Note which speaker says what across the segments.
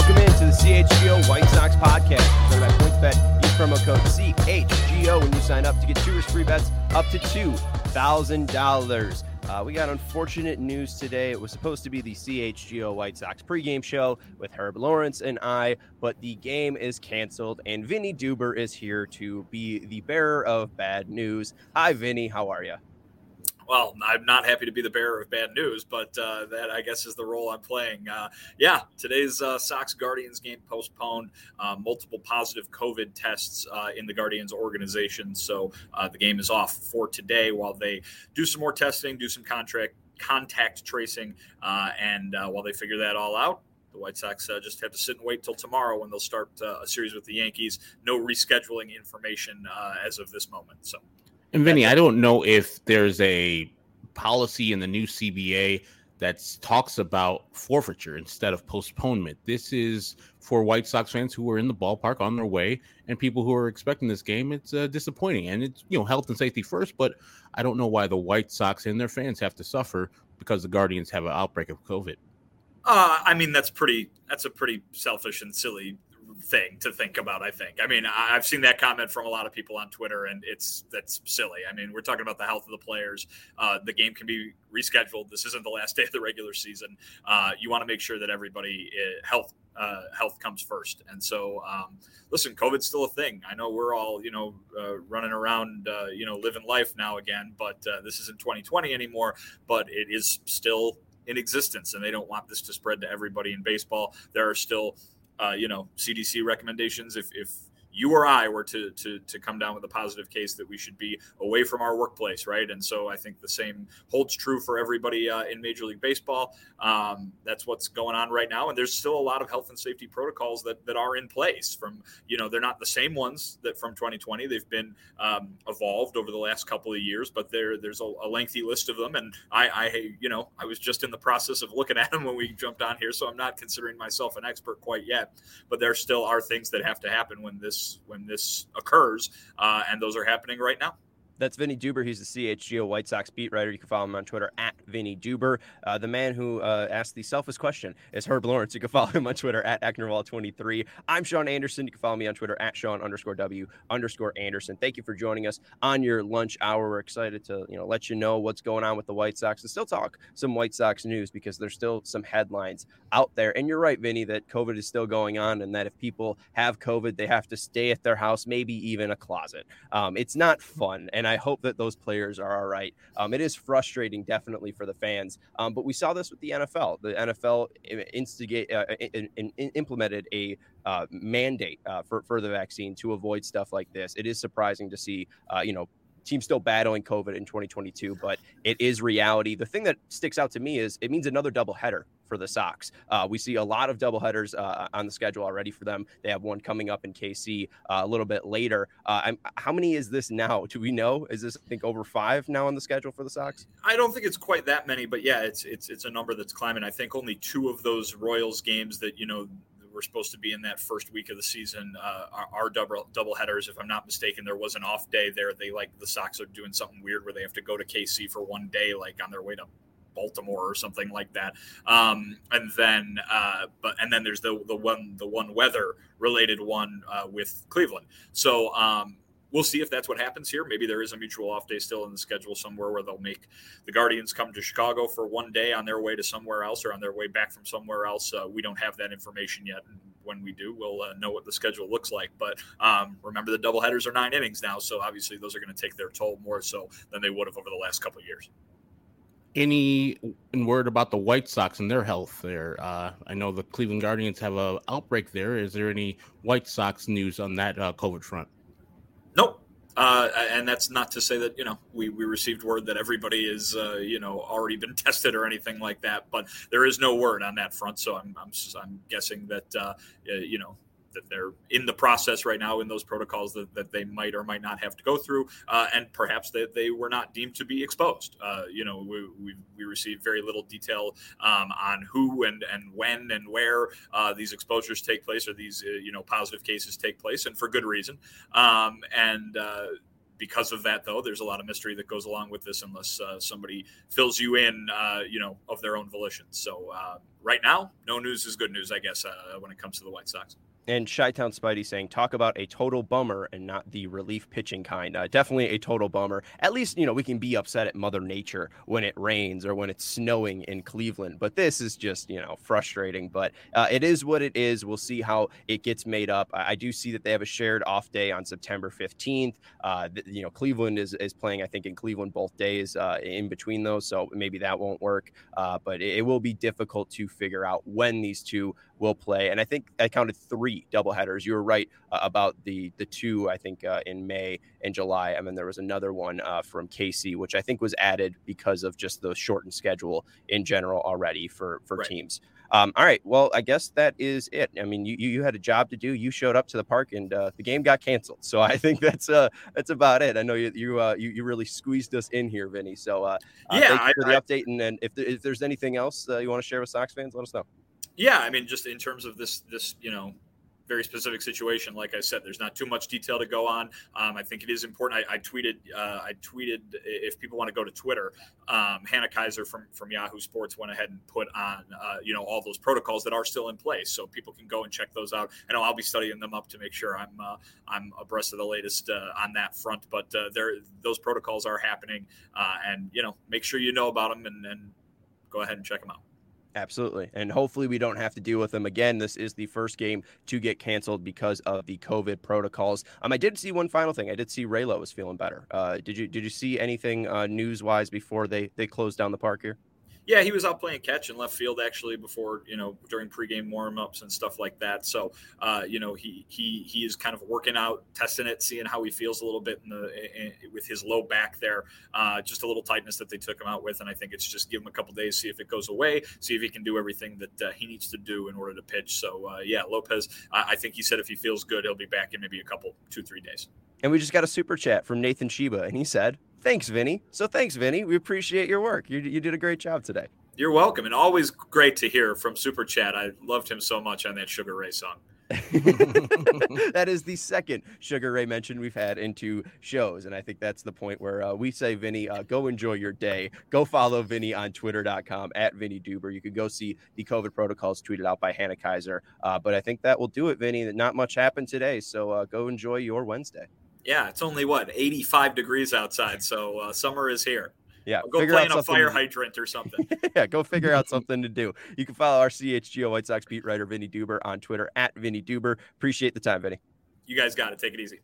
Speaker 1: Welcome into the CHGO White Sox podcast. Presented by PointsBet. Use promo code CHGO when you sign up to get 2 risk-free bets up to $2,000. We got unfortunate news today. It was supposed to be the CHGO White Sox pregame show with Herb Lawrence and I, but the game is canceled, and Vinny Duber is here to be the bearer of bad news. Hi, Vinny. How are you?
Speaker 2: Well, I'm not happy to be the bearer of bad news, but that, I guess, is the role I'm playing. Today's Sox-Guardians game postponed. Multiple positive COVID tests in the Guardians organization, so the game is off for today while they do some more testing, do some contact tracing, and while they figure that all out, the White Sox just have to sit and wait till tomorrow when they'll start a series with the Yankees. No rescheduling information as of this moment, so.
Speaker 3: And Vinny, I don't know if there's a policy in the new CBA that talks about forfeiture instead of postponement. This is for White Sox fans who are in the ballpark on their way and people who are expecting this game. It's disappointing, and it's health and safety first. But I don't know why the White Sox and their fans have to suffer because the Guardians have an outbreak of COVID.
Speaker 2: That's a pretty selfish and silly thing to think about, I think. I've seen that comment from a lot of people on Twitter, and that's silly. We're talking about the health of the players. The game can be rescheduled. This isn't the last day of the regular season. You want to make sure that everybody health comes first. And so, listen, COVID's still a thing. I know we're all, running around, living life now again, but this isn't 2020 anymore, but it is still in existence, and they don't want this to spread to everybody in baseball. There are still CDC recommendations. If you or I were to come down with a positive case, that we should be away from our workplace, right? And so I think the same holds true for everybody in Major League Baseball. That's what's going on right now. And there's still a lot of health and safety protocols that are in place from, they're not the same ones that from 2020. They've been evolved over the last couple of years, but there's a lengthy list of them. And I was just in the process of looking at them when we jumped on here, so I'm not considering myself an expert quite yet, but there still are things that have to happen when this occurs, and those are happening right now.
Speaker 1: That's Vinny Duber. He's the CHGO White Sox beat writer. You can follow him on Twitter at Vinny Duber. The man who asked the selfish question is Herb Lawrence. You can follow him on Twitter at Ecknerwall23. I'm Sean Anderson. You can follow me on Twitter at Sean_W_Anderson. Thank you for joining us on your lunch hour. We're excited to let you know what's going on with the White Sox and still talk some White Sox news because there's still some headlines out there. And you're right, Vinny, that COVID is still going on and that if people have COVID, they have to stay at their house, maybe even a closet. It's not fun, and I hope that those players are all right. It is frustrating, definitely, for the fans. But we saw this with the NFL. The NFL implemented a mandate for the vaccine to avoid stuff like this. It is surprising to see, teams still battling COVID in 2022, but it is reality. The thing that sticks out to me is it means another doubleheader for the Sox. We see a lot of doubleheaders on the schedule already for them. They have one coming up in KC a little bit later. How many is this now? Do we know? Is this, I think, over 5 now on the schedule for the Sox?
Speaker 2: I don't think it's quite that many, but yeah, it's a number that's climbing. I think only 2 of those Royals games that, we're supposed to be in that first week of the season are double headers. If I'm not mistaken, there was an off day there. The Sox are doing something weird where they have to go to KC for one day, like on their way to Baltimore or something like that. And then there's the one weather related one with Cleveland. So we'll see if that's what happens here. Maybe there is a mutual off day still in the schedule somewhere where they'll make the Guardians come to Chicago for one day on their way to somewhere else or on their way back from somewhere else. We don't have that information yet. And when we do, we'll know what the schedule looks like. But remember, the doubleheaders are 9 innings now, so obviously those are going to take their toll more so than they would have over the last couple of years.
Speaker 3: Any word about the White Sox and their health there? I know the Cleveland Guardians have an outbreak there. Is there any White Sox news on that COVID front?
Speaker 2: Nope. And that's not to say that, we received word that everybody is, already been tested or anything like that, but there is no word on that front. So I'm guessing that, that they're in the process right now in those protocols that they might or might not have to go through, and perhaps that they were not deemed to be exposed. We received very little detail on who and when and where these exposures take place or these positive cases take place, and for good reason. because of that, though, there's a lot of mystery that goes along with this unless somebody fills you in, of their own volition. So right now, no news is good news, I guess, when it comes to the White Sox.
Speaker 1: And Chi-Town Spidey saying, talk about a total bummer and not the relief pitching kind. Definitely a total bummer. At least, we can be upset at Mother Nature when it rains or when it's snowing in Cleveland. But this is just, frustrating. But it is what it is. We'll see how it gets made up. I do see that they have a shared off day on September 15th. Cleveland is playing, I think, in Cleveland both days in between those. So maybe that won't work. But it will be difficult to figure out when these two will play. And I think I counted 3 doubleheaders. You were right about the 2, I think, in May and July. And then there was another one from KC, which I think was added because of just the shortened schedule in general already for right. Teams. All right. Well, I guess that is it. I mean, you had a job to do. You showed up to the park and the game got canceled. So I think that's about it. I know you really squeezed us in here, Vinny. So thank you for the update. And then if there's anything else you want to share with Sox fans, let us know.
Speaker 2: Yeah, I mean, just in terms of this, very specific situation, like I said, there's not too much detail to go on. I think it is important. I tweeted if people want to go to Twitter, Hannah Kaiser from Yahoo Sports went ahead and put on all those protocols that are still in place, so people can go and check those out. I know I'll be studying them up to make sure I'm abreast of the latest on that front. But those protocols are happening, and make sure you know about them and go ahead and check them out.
Speaker 1: Absolutely. And hopefully we don't have to deal with them again. This is the first game to get canceled because of the COVID protocols. I did see one final thing. I did see Raylo was feeling better. Did you see anything news-wise before they closed down the park here?
Speaker 2: Yeah, he was out playing catch in left field actually before, during pregame warm-ups and stuff like that. So, he is kind of working out, testing it, seeing how he feels a little bit with his low back there. Just a little tightness that they took him out with, and I think it's just give him a couple days, see if it goes away, see if he can do everything that he needs to do in order to pitch. So, Lopez, I think he said if he feels good, he'll be back in maybe 2-3 days.
Speaker 1: And we just got a super chat from Nathan Sheba, and he said, thanks, Vinny. So thanks, Vinny. We appreciate your work. You did a great job today.
Speaker 2: You're welcome. And always great to hear from Super Chat. I loved him so much on that Sugar Ray song.
Speaker 1: That is the second Sugar Ray mention we've had in 2 shows. And I think that's the point where we say, Vinny, go enjoy your day. Go follow Vinny on twitter.com at Vinny Duber. You can go see the COVID protocols tweeted out by Hannah Kaiser. But I think that will do it, Vinny. Not much happened today. So go enjoy your Wednesday.
Speaker 2: Yeah, it's only 85 degrees outside, so summer is here.
Speaker 1: Yeah,
Speaker 2: I'll go play in a fire hydrant or something.
Speaker 1: Yeah, go figure out something to do. You can follow our CHGO White Sox beat writer Vinny Duber on Twitter at Vinny Duber. Appreciate the time, Vinny.
Speaker 2: You guys got it. Take it easy.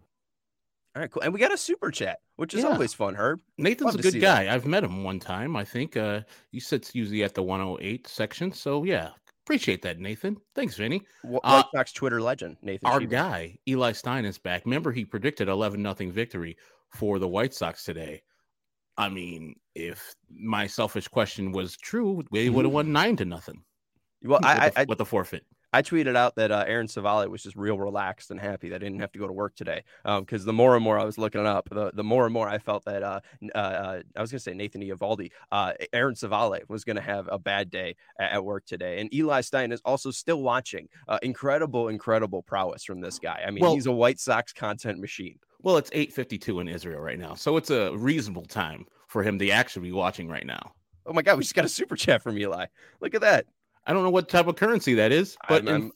Speaker 1: All right, cool. And we got a super chat, which is always fun, Herb.
Speaker 3: Nathan's a good guy. I've met him one time. I think he sits usually at the 108 section. So yeah. Appreciate that, Nathan. Thanks, Vinny.
Speaker 1: White Sox Twitter legend, Nathan.
Speaker 3: Our
Speaker 1: Sheba.
Speaker 3: guy, Eli Stein, is back. Remember, he predicted 11-0 victory for the White Sox today. I mean, if my selfish question was true, they would have won 9-0.
Speaker 1: Well,
Speaker 3: with the forfeit.
Speaker 1: I tweeted out that Aaron Savale was just real relaxed and happy that I didn't have to go to work today. Because the more and more I was looking it up, the more and more I felt that I was going to say Nathan Eovaldi, Aaron Savale was going to have a bad day at work today. And Eli Stein is also still watching. Incredible prowess from this guy. I mean, he's a White Sox content machine.
Speaker 3: Well, it's 8:52 in Israel right now, so it's a reasonable time for him to actually be watching right now.
Speaker 1: Oh my God, we just got a super chat from Eli. Look at that.
Speaker 3: I don't know what type of currency that is, but in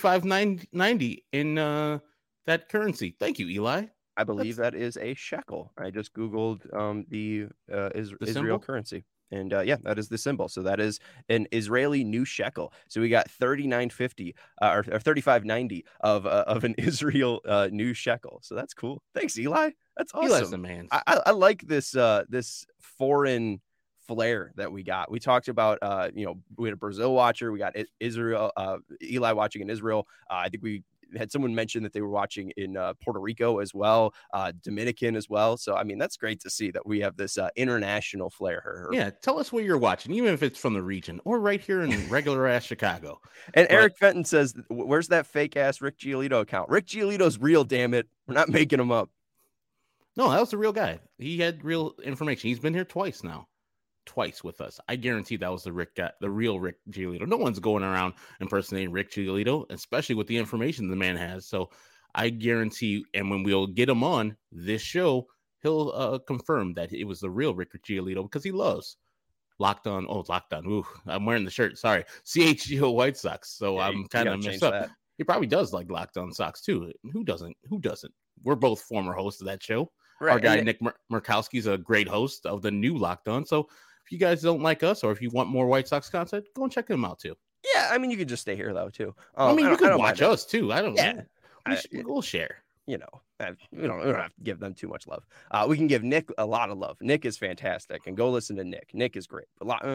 Speaker 3: 35.90 in that currency. Thank you, Eli.
Speaker 1: I believe that is a shekel. I just Googled the Israel currency. And that is the symbol. So that is an Israeli new shekel. So we got 39.50 or 35.90 of an Israel new shekel. So that's cool. Thanks, Eli. That's awesome.
Speaker 3: Eli's the man.
Speaker 1: I like this this foreign flair that we got. We talked about we had a Brazil watcher. We got Israel Eli watching in Israel. I think we had someone mention that they were watching in Puerto Rico as well, Dominican as well. So, I mean, that's great to see that we have this international flair.
Speaker 3: Yeah, tell us where you're watching, even if it's from the region or right here in regular ass Chicago.
Speaker 1: And Eric Fenton says, where's that fake ass Rick Giolito account? Rick Giolito's real, damn it. We're not making him up.
Speaker 3: No, that was the real guy. He had real information. He's been here twice with us. I guarantee that was the real Rick Giolito. No one's going around impersonating Rick Giolito, especially with the information the man has. So I guarantee, and when we'll get him on this show, he'll confirm that it was the real Rick Giolito because he loves Locked On. Oh, Locked On. Ooh, I'm wearing the shirt. Sorry. CHGO White Sox. So
Speaker 1: Yeah,
Speaker 3: I'm kind of messed up. That. He probably does like Locked On Sox too. Who doesn't? Who doesn't? We're both former hosts of that show. Right. Our guy, Nick Murkowski's a great host of the new Locked On. So if you guys don't like us or if you want more White Sox content, go and check him out too.
Speaker 1: Yeah, I mean, you could just stay here though too.
Speaker 3: I mean, you could watch us too. I don't know. We'll share.
Speaker 1: You know, we don't have to give them too much love. We can give Nick a lot of love. Nick is fantastic, and go listen to Nick. Nick is great. A lot,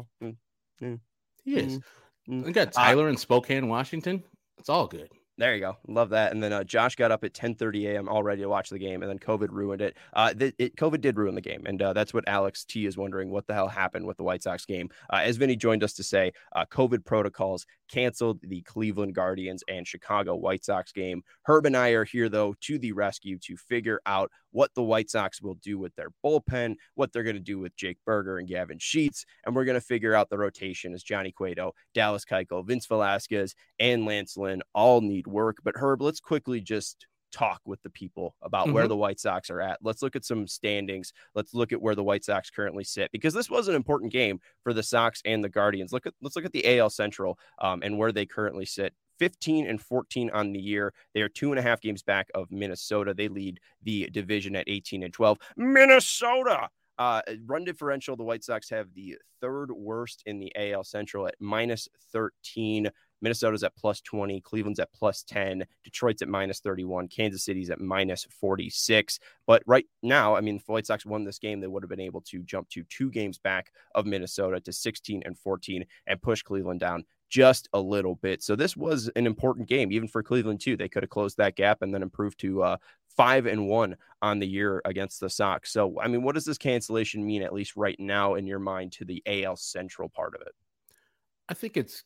Speaker 3: he is. We got Tyler in Spokane, Washington. It's all good.
Speaker 1: There you go. Love that. And then Josh got up at 10:30 a.m. all ready to watch the game, and then COVID ruined it. COVID did ruin the game, and that's what Alex T is wondering, what the hell happened with the White Sox game. As Vinny joined us to say, COVID protocols canceled the Cleveland Guardians and Chicago White Sox game. Herb and I are here, though, to the rescue to figure out what the White Sox will do with their bullpen, what they're going to do with Jake Berger and Gavin Sheets, and we're going to figure out the rotation as Johnny Cueto, Dallas Keuchel, Vince Velasquez, and Lance Lynn all need work. But Herb, let's quickly just talk with the people about where the White Sox are at. Let's look at some standings. Let's look at where the White Sox currently sit, because this was an important game for the Sox and the Guardians. Let's look at the AL Central and where they currently sit. 15-14 on the year. They are 2.5 games back of Minnesota. They lead the division at 18-12. Minnesota! Run differential, the White Sox have the third worst in the AL Central at -13. Minnesota's at +20, Cleveland's at +10, Detroit's at -31, Kansas City's at -46. But right now, I mean, if the White Sox won this game, they would have been able to jump to 2 games back of Minnesota to 16-14 and push Cleveland down just a little bit. So this was an important game, even for Cleveland too. They could have closed that gap and then improved to 5-1 on the year against the Sox. So, I mean, what does this cancellation mean, at least right now in your mind, to the AL Central part of it?
Speaker 3: I think it's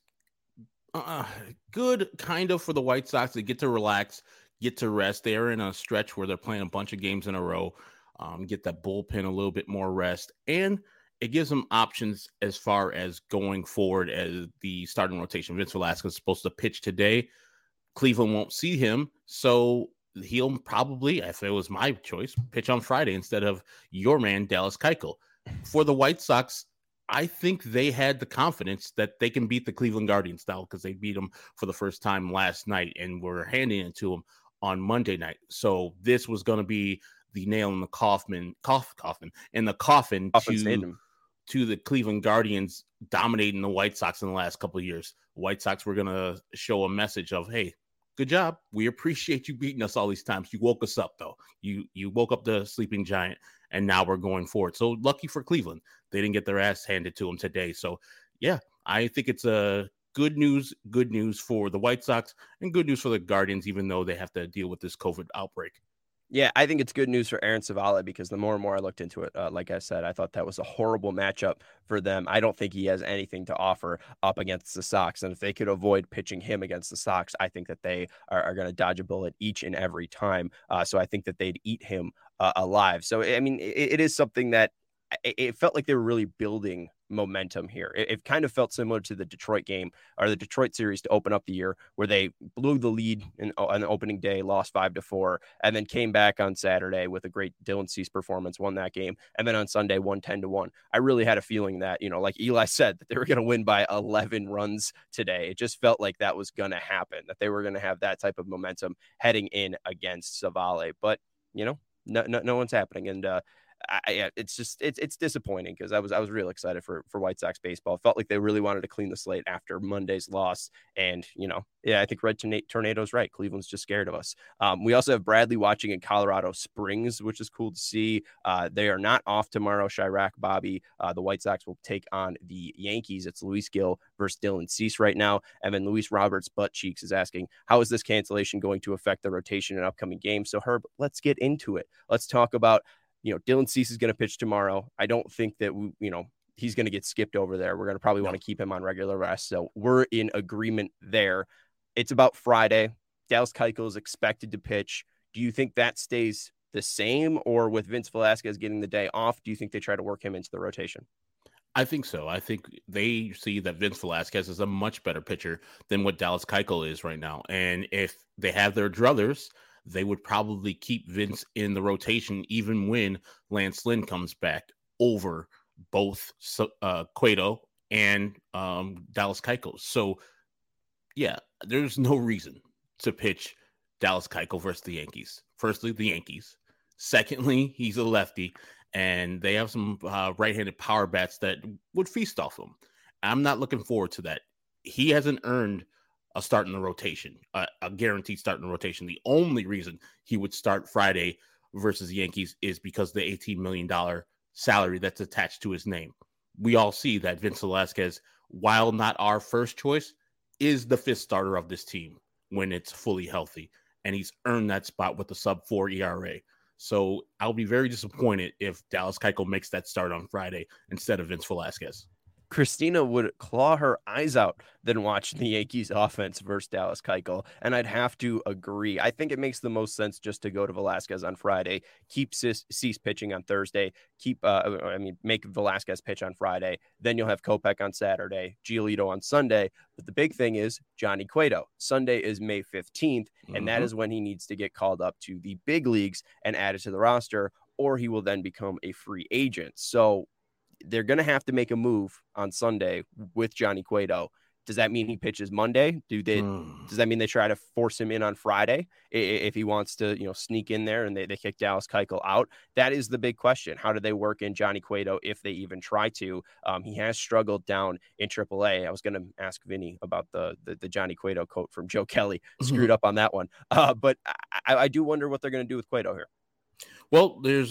Speaker 3: good kind of for the White Sox to get to relax, get to rest. They're in a stretch where they're playing a bunch of games in a row, get that bullpen a little bit more rest, and it gives them options as far as going forward as the starting rotation. Vince Velasquez is supposed to pitch today. Cleveland won't see him, so he'll probably, if it was my choice, pitch on Friday instead of your man, Dallas Keuchel. For the White Sox, I think they had the confidence that they can beat the Cleveland Guardians now because they beat them for the first time last night and were handing it to them on Monday night. So this was going to be the nail in the coffin to the Cleveland Guardians dominating the White Sox in the last couple of years. White Sox were going to show a message of, hey, good job. We appreciate you beating us all these times. You woke us up, though. You woke up the sleeping giant, and now we're going forward. So lucky for Cleveland. They didn't get their ass handed to them today. So, yeah, I think it's a good news for the White Sox and good news for the Guardians, even though they have to deal with this COVID outbreak.
Speaker 1: Yeah, I think it's good news for Aaron Civale because the more and more I looked into it, like I said, I thought that was a horrible matchup for them. I don't think he has anything to offer up against the Sox. And if they could avoid pitching him against the Sox, I think that they are going to dodge a bullet each and every time. So I think that they'd eat him alive. So, I mean, it is something that it felt like they were really building momentum here. It kind of felt similar to the Detroit game or the Detroit series to open up the year where they blew the lead on the opening day, lost 5-4, and then came back on Saturday with a great Dylan Cease performance, won that game. And then on Sunday, won 10-1. I really had a feeling that, like Eli said, that they were going to win by 11 runs today. It just felt like that was going to happen, that they were going to have that type of momentum heading in against Civale. But, no one's happening. And, it's disappointing because I was real excited for White Sox baseball. It felt like they really wanted to clean the slate after Monday's loss. And, I think Red Tornado's right. Cleveland's just scared of us. We also have Bradley watching in Colorado Springs, which is cool to see. They are not off tomorrow. Chirac, Bobby, the White Sox will take on the Yankees. It's Luis Gil versus Dylan Cease right now. And then Luis Roberts Butt Cheeks is asking, how is this cancellation going to affect the rotation in upcoming games? So Herb, let's get into it. Let's talk about Dylan Cease is going to pitch tomorrow. I don't think that, he's going to get skipped over there. We're going to probably want to keep him on regular rest. So we're in agreement there. It's about Friday. Dallas Keuchel is expected to pitch. Do you think that stays the same, or with Vince Velasquez getting the day off, do you think they try to work him into the rotation?
Speaker 3: I think so. I think they see that Vince Velasquez is a much better pitcher than what Dallas Keuchel is right now. And if they have their druthers, they would probably keep Vince in the rotation even when Lance Lynn comes back over both Cueto and Dallas Keuchel. So, yeah, there's no reason to pitch Dallas Keuchel versus the Yankees. Firstly, the Yankees. Secondly, he's a lefty, and they have some right-handed power bats that would feast off him. I'm not looking forward to that. He hasn't earned a start in the rotation, a guaranteed start in the rotation. The only reason he would start Friday versus the Yankees is because the $18 million salary that's attached to his name. We all see that Vince Velasquez, while not our first choice, is the fifth starter of this team when it's fully healthy, and he's earned that spot with the sub-4 ERA. So I'll be very disappointed if Dallas Keuchel makes that start on Friday instead of Vince Velasquez.
Speaker 1: Christina would claw her eyes out than watch the Yankees offense versus Dallas Keuchel. And I'd have to agree. I think it makes the most sense just to go to Velasquez on Friday, keep Cease pitching on Thursday, make Velasquez pitch on Friday. Then you'll have Kopech on Saturday, Giolito on Sunday. But the big thing is Johnny Cueto. Sunday is May 15th, and that is when he needs to get called up to the big leagues and added to the roster, or he will then become a free agent. So they're going to have to make a move on Sunday with Johnny Cueto. Does that mean he pitches Monday? Does that mean they try to force him in on Friday if he wants to, sneak in there and they kick Dallas Keuchel out? That is the big question. How do they work in Johnny Cueto if they even try to? He has struggled down in AAA. I was going to ask Vinny about the Johnny Cueto quote from Joe Kelly. Screwed up on that one. But I do wonder what they're going to do with Cueto here.
Speaker 3: Well, there's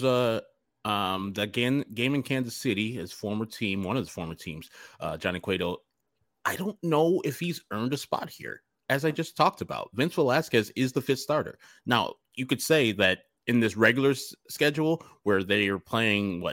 Speaker 3: that game in Kansas City, one of his former teams, Johnny Cueto. I don't know if he's earned a spot here. As I just talked about, Vince Velasquez is the fifth starter. Now, you could say that in this regular schedule where they are playing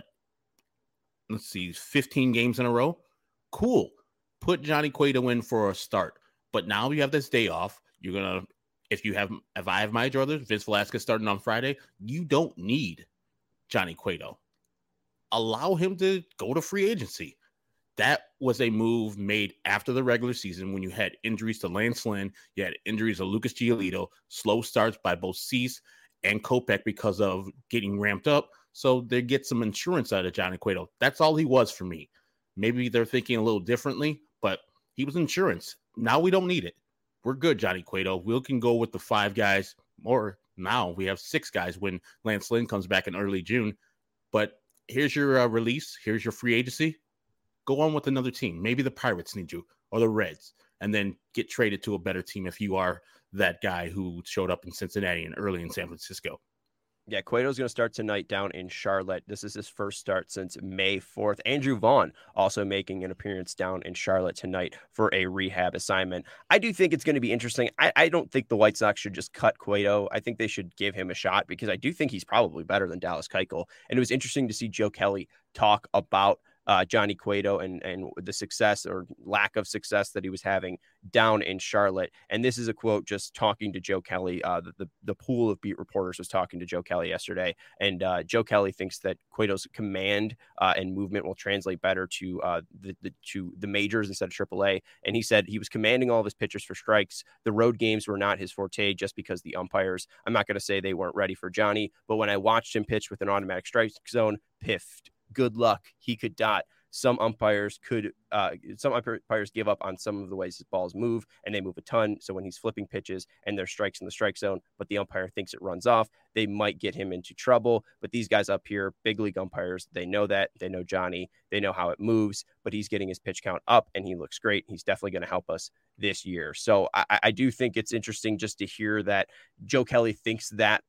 Speaker 3: 15 games in a row. Cool. Put Johnny Cueto in for a start. But now you have this day off. If I have my druthers, Vince Velasquez starting on Friday, you don't need Johnny Cueto. Allow him to go to free agency. That was a move made after the regular season when you had injuries to Lance Lynn, you had injuries to Lucas Giolito, slow starts by both Cease and Kopech because of getting ramped up. So they get some insurance out of Johnny Cueto. That's all he was for me. Maybe they're thinking a little differently, but he was insurance. Now we don't need it. We're good, Johnny Cueto. We can go with the 5 guys, or now we have 6 guys when Lance Lynn comes back in early June. But here's your release. Here's your free agency. Go on with another team. Maybe the Pirates need you or the Reds, and then get traded to a better team if you are that guy who showed up in Cincinnati and early in San Francisco.
Speaker 1: Yeah, Cueto's going to start tonight down in Charlotte. This is his first start since May 4th. Andrew Vaughn also making an appearance down in Charlotte tonight for a rehab assignment. I do think it's going to be interesting. I don't think the White Sox should just cut Cueto. I think they should give him a shot because I do think he's probably better than Dallas Keuchel. And it was interesting to see Joe Kelly talk about Johnny Cueto and the success or lack of success that he was having down in Charlotte. And this is a quote just talking to Joe Kelly. The pool of beat reporters was talking to Joe Kelly yesterday. And Joe Kelly thinks that Cueto's command and movement will translate better to the majors instead of AAA. And he said he was commanding all of his pitchers for strikes. The road games were not his forte just because the umpires, I'm not going to say they weren't ready for Johnny, but when I watched him pitch with an automatic strike zone, piffed. Good luck. He could dot. Some umpires give up on some of the ways his balls move, and they move a ton. So when he's flipping pitches and there's strikes in the strike zone, but the umpire thinks it runs off, they might get him into trouble. But these guys up here, big league umpires, they know that. They know Johnny. They know how it moves, but he's getting his pitch count up, and he looks great. He's definitely going to help us this year. So I do think it's interesting just to hear that Joe Kelly thinks that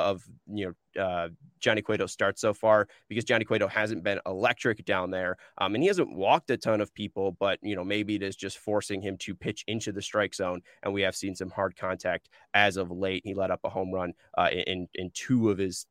Speaker 1: Johnny Cueto starts so far, because Johnny Cueto hasn't been electric down there. And he hasn't walked a ton of people, but maybe it is just forcing him to pitch into the strike zone. And we have seen some hard contact as of late. He let up a home run in two of his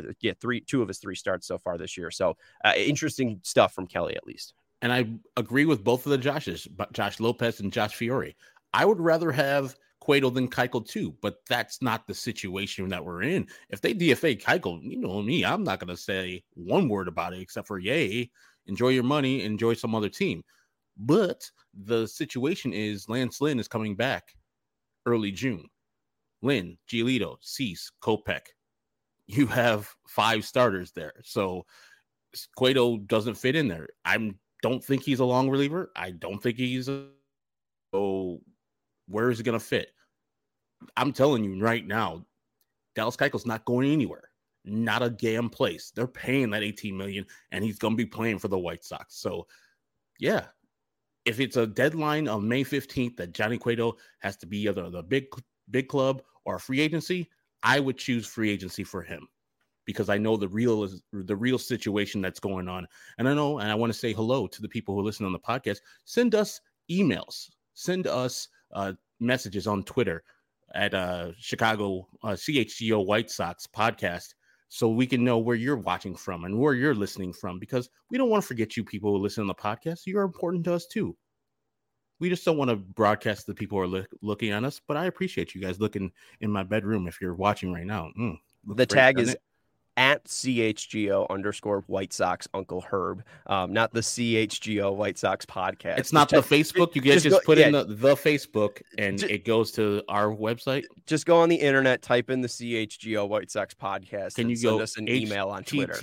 Speaker 1: 3 starts so far this year. So interesting stuff from Kelly, at least.
Speaker 3: And I agree with both of the Joshes, Josh Lopez and Josh Fiore. I would rather have Cueto than Keuchel too, but that's not the situation that we're in. If they DFA Keuchel, you know me, I'm not going to say one word about it except for yay. enjoy your money, enjoy some other team. But the situation is Lance Lynn is coming back early June. Lynn, Giolito, Cease, Kopech. You have 5 starters there. So Cueto doesn't fit in there. I don't think he's a long reliever. I don't think he's so where is it going to fit? I'm telling you right now, Dallas Keuchel's not going anywhere. Not a damn place. They're paying that $18 million, and he's going to be playing for the White Sox. So, yeah, if it's a deadline of May 15th that Johnny Cueto has to be either the big club or free agency, I would choose free agency for him because I know the real situation that's going on. And I know, and I want to say hello to the people who listen on the podcast. Send us emails. Send us messages on Twitter at Chicago CHGO White Sox podcast so we can know where you're watching from and where you're listening from, because we don't want to forget you people who listen on the podcast. You're important to us too. We just don't want to broadcast to the people who are looking at us, but I appreciate you guys looking in my bedroom if you're watching right now.
Speaker 1: The tag is at CHGO _White Sox Uncle Herb, not the CHGO White Sox podcast.
Speaker 3: It's not the Facebook. You guys just put in the Facebook and it goes to our website.
Speaker 1: Just go on the internet, type in the CHGO White Sox podcast.
Speaker 3: Can you
Speaker 1: send us an email on Twitter?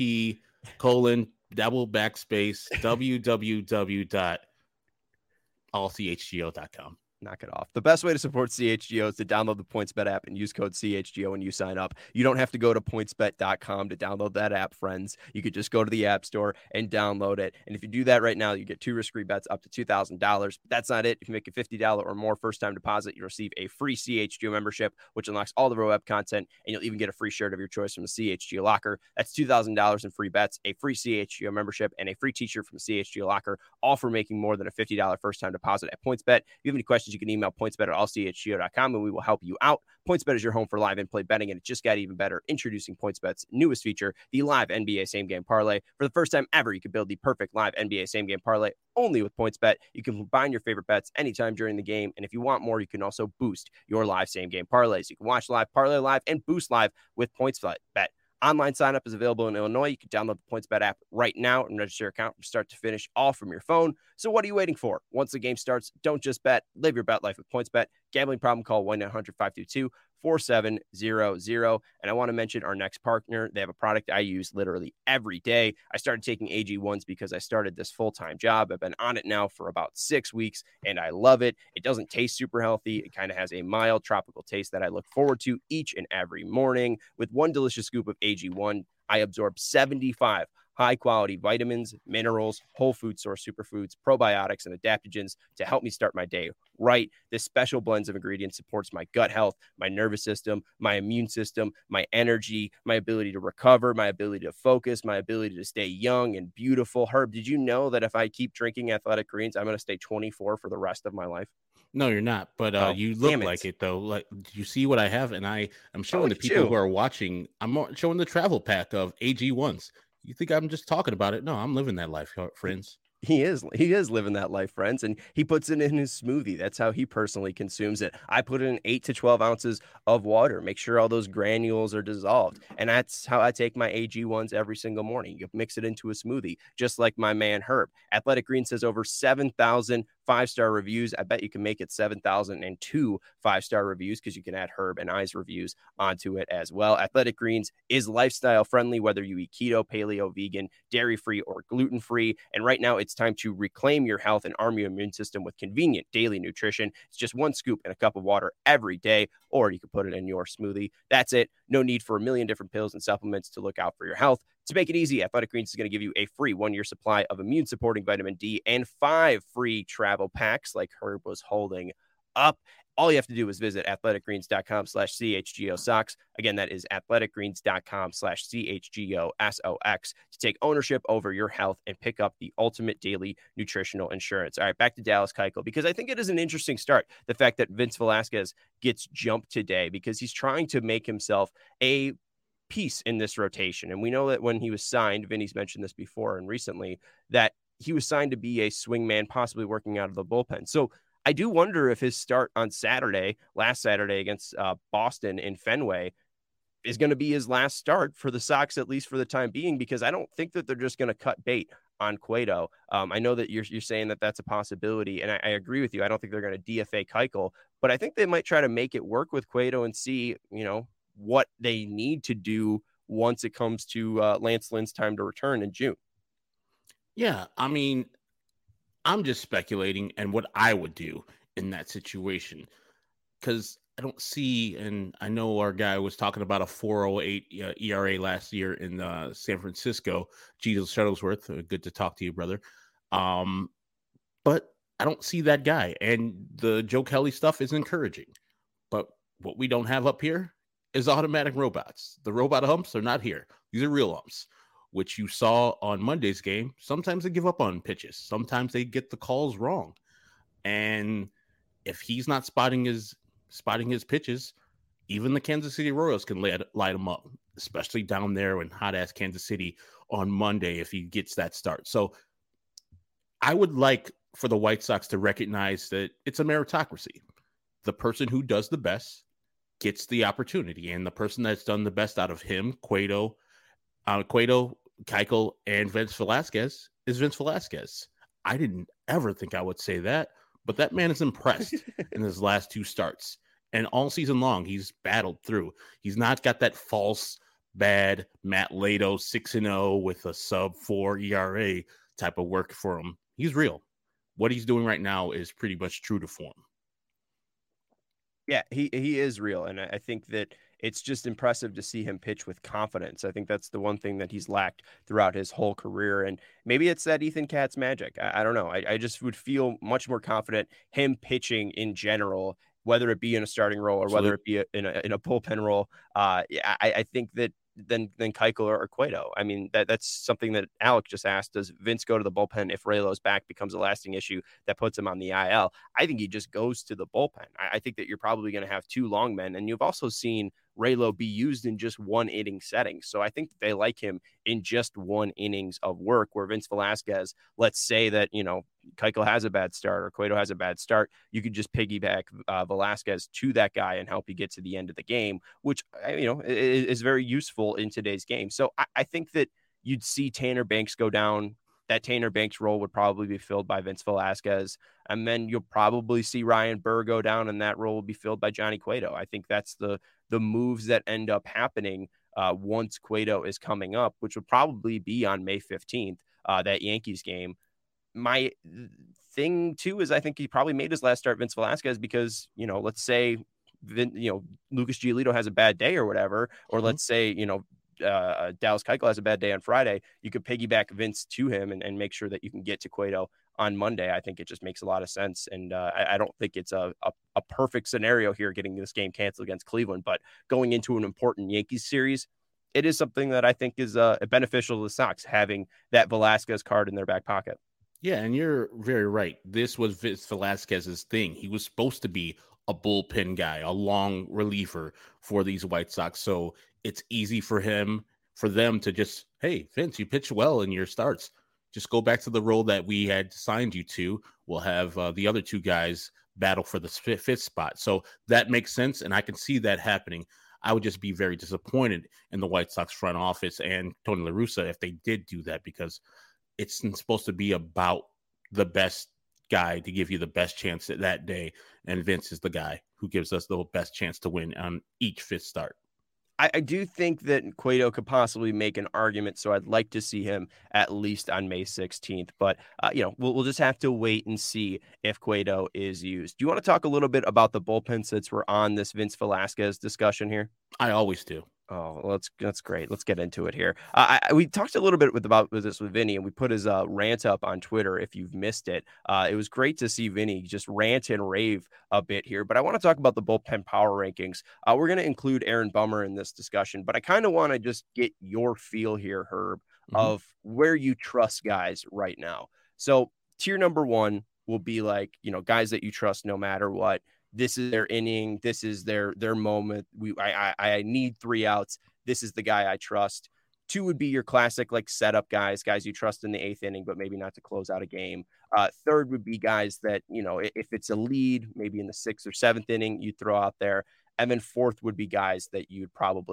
Speaker 3: http://www.allchgo.com.
Speaker 1: Knock it off. The best way to support CHGO is to download the PointsBet app and use code CHGO when you sign up. You don't have to go to pointsbet.com to download that app, friends. You could just go to the App Store and download it. And if you do that right now, you get 2 risk-free bets up to $2,000. But that's not it. If you make a $50 or more first-time deposit, you'll receive a free CHGO membership, which unlocks all the web content, and you'll even get a free shirt of your choice from the CHGO Locker. That's $2,000 in free bets, a free CHGO membership, and a free t-shirt from the CHGO Locker, all for making more than a $50 first-time deposit at PointsBet. If you have any questions, you can email pointsbet@allchgo.com and we will help you out. PointsBet is your home for live in-play betting, and it just got even better. Introducing PointsBet's newest feature, the live NBA same-game parlay. For the first time ever, you can build the perfect live NBA same-game parlay only with PointsBet. You can combine your favorite bets anytime during the game, and if you want more, you can also boost your live same-game parlays. You can watch live, parlay live, and boost live with PointsBet. Online sign-up is available in Illinois. You can download the PointsBet app right now and register your account from start to finish, all from your phone. So what are you waiting for? Once the game starts, don't just bet. Live your bet life with PointsBet. Gambling problem, call 1-800-522-4700. And I want to mention our next partner. They have a product I use literally every day. I started taking AG1s because I started this full-time job. I've been on it now for about 6 weeks, and I love it. It doesn't taste super healthy. It kind of has a mild tropical taste that I look forward to each and every morning. With one delicious scoop of AG1, I absorb 75 high-quality vitamins, minerals, whole food source superfoods, probiotics, and adaptogens to help me start my day right. This special blend of ingredients supports my gut health, my nervous system, my immune system, my energy, my ability to recover, my ability to focus, my ability to stay young and beautiful. Herb, did you know that if I keep drinking Athletic Greens, I'm going to stay 24 for the rest of my life?
Speaker 3: No, you're not. But you look like it, though. Like, you see what I have, and I'm showing the people who are watching. I'm showing the travel pack of AG1s. You think I'm just talking about it? No, I'm living that life, friends.
Speaker 1: He is living that life, friends, and he puts it in his smoothie. That's how he personally consumes it. I put in 8 to 12 ounces of water, make sure all those granules are dissolved, and that's how I take my AG1s every single morning. You mix it into a smoothie, just like my man Herb. Athletic Greens says over 7,000 5-star reviews. I bet you can make it 7,002 5-star reviews because you can add Herb and I's reviews onto it as well. Athletic Greens is lifestyle friendly, whether you eat keto, paleo, vegan, dairy-free, or gluten-free. And right now it's time to reclaim your health and arm your immune system with convenient daily nutrition. It's just 1 scoop in a cup of water every day, or you can put it in your smoothie. That's it. No need for a million different pills and supplements to look out for your health. To make it easy, Athletic Greens is going to give you a free 1-year supply of immune-supporting vitamin D and 5 free travel packs like Herb was holding up. All you have to do is visit athleticgreens.com/CHGO Socks. Again, that is athleticgreens.com/CHGO SOX to take ownership over your health and pick up the ultimate daily nutritional insurance. All right, back to Dallas Keuchel, because I think it is an interesting start. The fact that Vince Velasquez gets jumped today because he's trying to make himself a piece in this rotation. And we know that when he was signed, Vinny's mentioned this before and recently, that he was signed to be a swingman, possibly working out of the bullpen. So I do wonder if his start on last Saturday against Boston in Fenway is going to be his last start for the Sox, at least for the time being, because I don't think that they're just going to cut bait on Cueto. I know that you're saying that that's a possibility, and I agree with you. I don't think they're going to DFA Keuchel, but I think they might try to make it work with Cueto and see, what they need to do once it comes to Lance Lynn's time to return in June.
Speaker 3: Yeah, I mean, I'm just speculating and what I would do in that situation, because I don't see, and I know our guy was talking about a 4.08 ERA last year in San Francisco. Jesus Shuttlesworth, good to talk to you, brother. But I don't see that guy, and the Joe Kelly stuff is encouraging. But what we don't have up here is automatic robots. The robot humps are not here. These are real humps, which you saw on Monday's game. Sometimes they give up on pitches. Sometimes they get the calls wrong. And if he's not spotting his pitches, even the Kansas City Royals can light him up, especially down there in hot-ass Kansas City on Monday if he gets that start. So I would like for the White Sox to recognize that it's a meritocracy. The person who does the best gets the opportunity, and the person that's done the best out of him, Cueto, Keuchel, and Vince Velasquez is Vince Velasquez. I didn't ever think I would say that, but that man is impressed in his last two starts. And all season long, he's battled through. He's not got that false, bad Matt Lato 6-0 with a sub-4 ERA type of work for him. He's real. What he's doing right now is pretty much true to form.
Speaker 1: Yeah, he is real. And I think that it's just impressive to see him pitch with confidence. I think that's the one thing that he's lacked throughout his whole career. And maybe it's that Ethan Katz magic. I don't know. I just would feel much more confident him pitching in general, whether it be in a starting role or whether it be in a bullpen role. I think that than Keuchel or Cueto. I mean, that's something that Alec just asked. Does Vince go to the bullpen if Raylo's back becomes a lasting issue that puts him on the IL? I think he just goes to the bullpen. I think that you're probably going to have two long men, and you've also seen Raylo be used in just one inning setting. So I think they like him in just one innings of work, where Vince Velasquez, let's say that, Keuchel has a bad start or Cueto has a bad start, you could just piggyback Velasquez to that guy and help you get to the end of the game, which, is very useful in today's game. So I think that you'd see Tanner Banks go down. That Tanner Banks role would probably be filled by Vince Velasquez. And then you'll probably see Ryan Burr go down, and that role will be filled by Johnny Cueto. I think that's the moves that end up happening once Cueto is coming up, which would probably be on May 15th, that Yankees game. My thing, too, is I think he probably made his last start Vince Velasquez because, let's say, Lucas Giolito has a bad day or whatever, or let's say, Dallas Keuchel has a bad day on Friday, you could piggyback Vince to him and make sure that you can get to Cueto on Monday. I think it just makes a lot of sense. And I don't think it's a perfect scenario here getting this game canceled against Cleveland, but going into an important Yankees series, it is something that I think is beneficial to the Sox, having that Velasquez card in their back pocket.
Speaker 3: Yeah, and you're very right. This was Vince Velasquez's thing. He was supposed to be a bullpen guy, a long reliever for these White Sox. So it's easy for them to just, hey, Vince, you pitch well in your starts. Just go back to the role that we had signed you to. We'll have the other two guys battle for the fifth spot. So that makes sense, and I can see that happening. I would just be very disappointed in the White Sox front office and Tony La Russa if they did do that, because it's supposed to be about the best guy to give you the best chance at that day. And Vince is the guy who gives us the best chance to win on each fifth start.
Speaker 1: I do think that Cueto could possibly make an argument, so I'd like to see him at least on May 16th. But, we'll just have to wait and see if Cueto is used. Do you want to talk a little bit about the bullpen since we're on this Vince Velasquez discussion here?
Speaker 3: I always do.
Speaker 1: Oh, well, that's great. Let's get into it here. We talked a little bit about this with Vinny, and we put his rant up on Twitter if you've missed it. It was great to see Vinny just rant and rave a bit here, but I want to talk about the bullpen power rankings. We're going to include Aaron Bummer in this discussion, but I kind of want to just get your feel here, Herb, of where you trust guys right now. So tier number one will be like, guys that you trust no matter what. This is their inning. This is their moment. I need 3 outs. This is the guy I trust. 2 would be your classic like setup guys you trust in the 8th inning, but maybe not to close out a game. 3rd would be guys that, if it's a lead, maybe in the 6th or 7th inning, you throw out there. And then 4th would be guys that you'd probably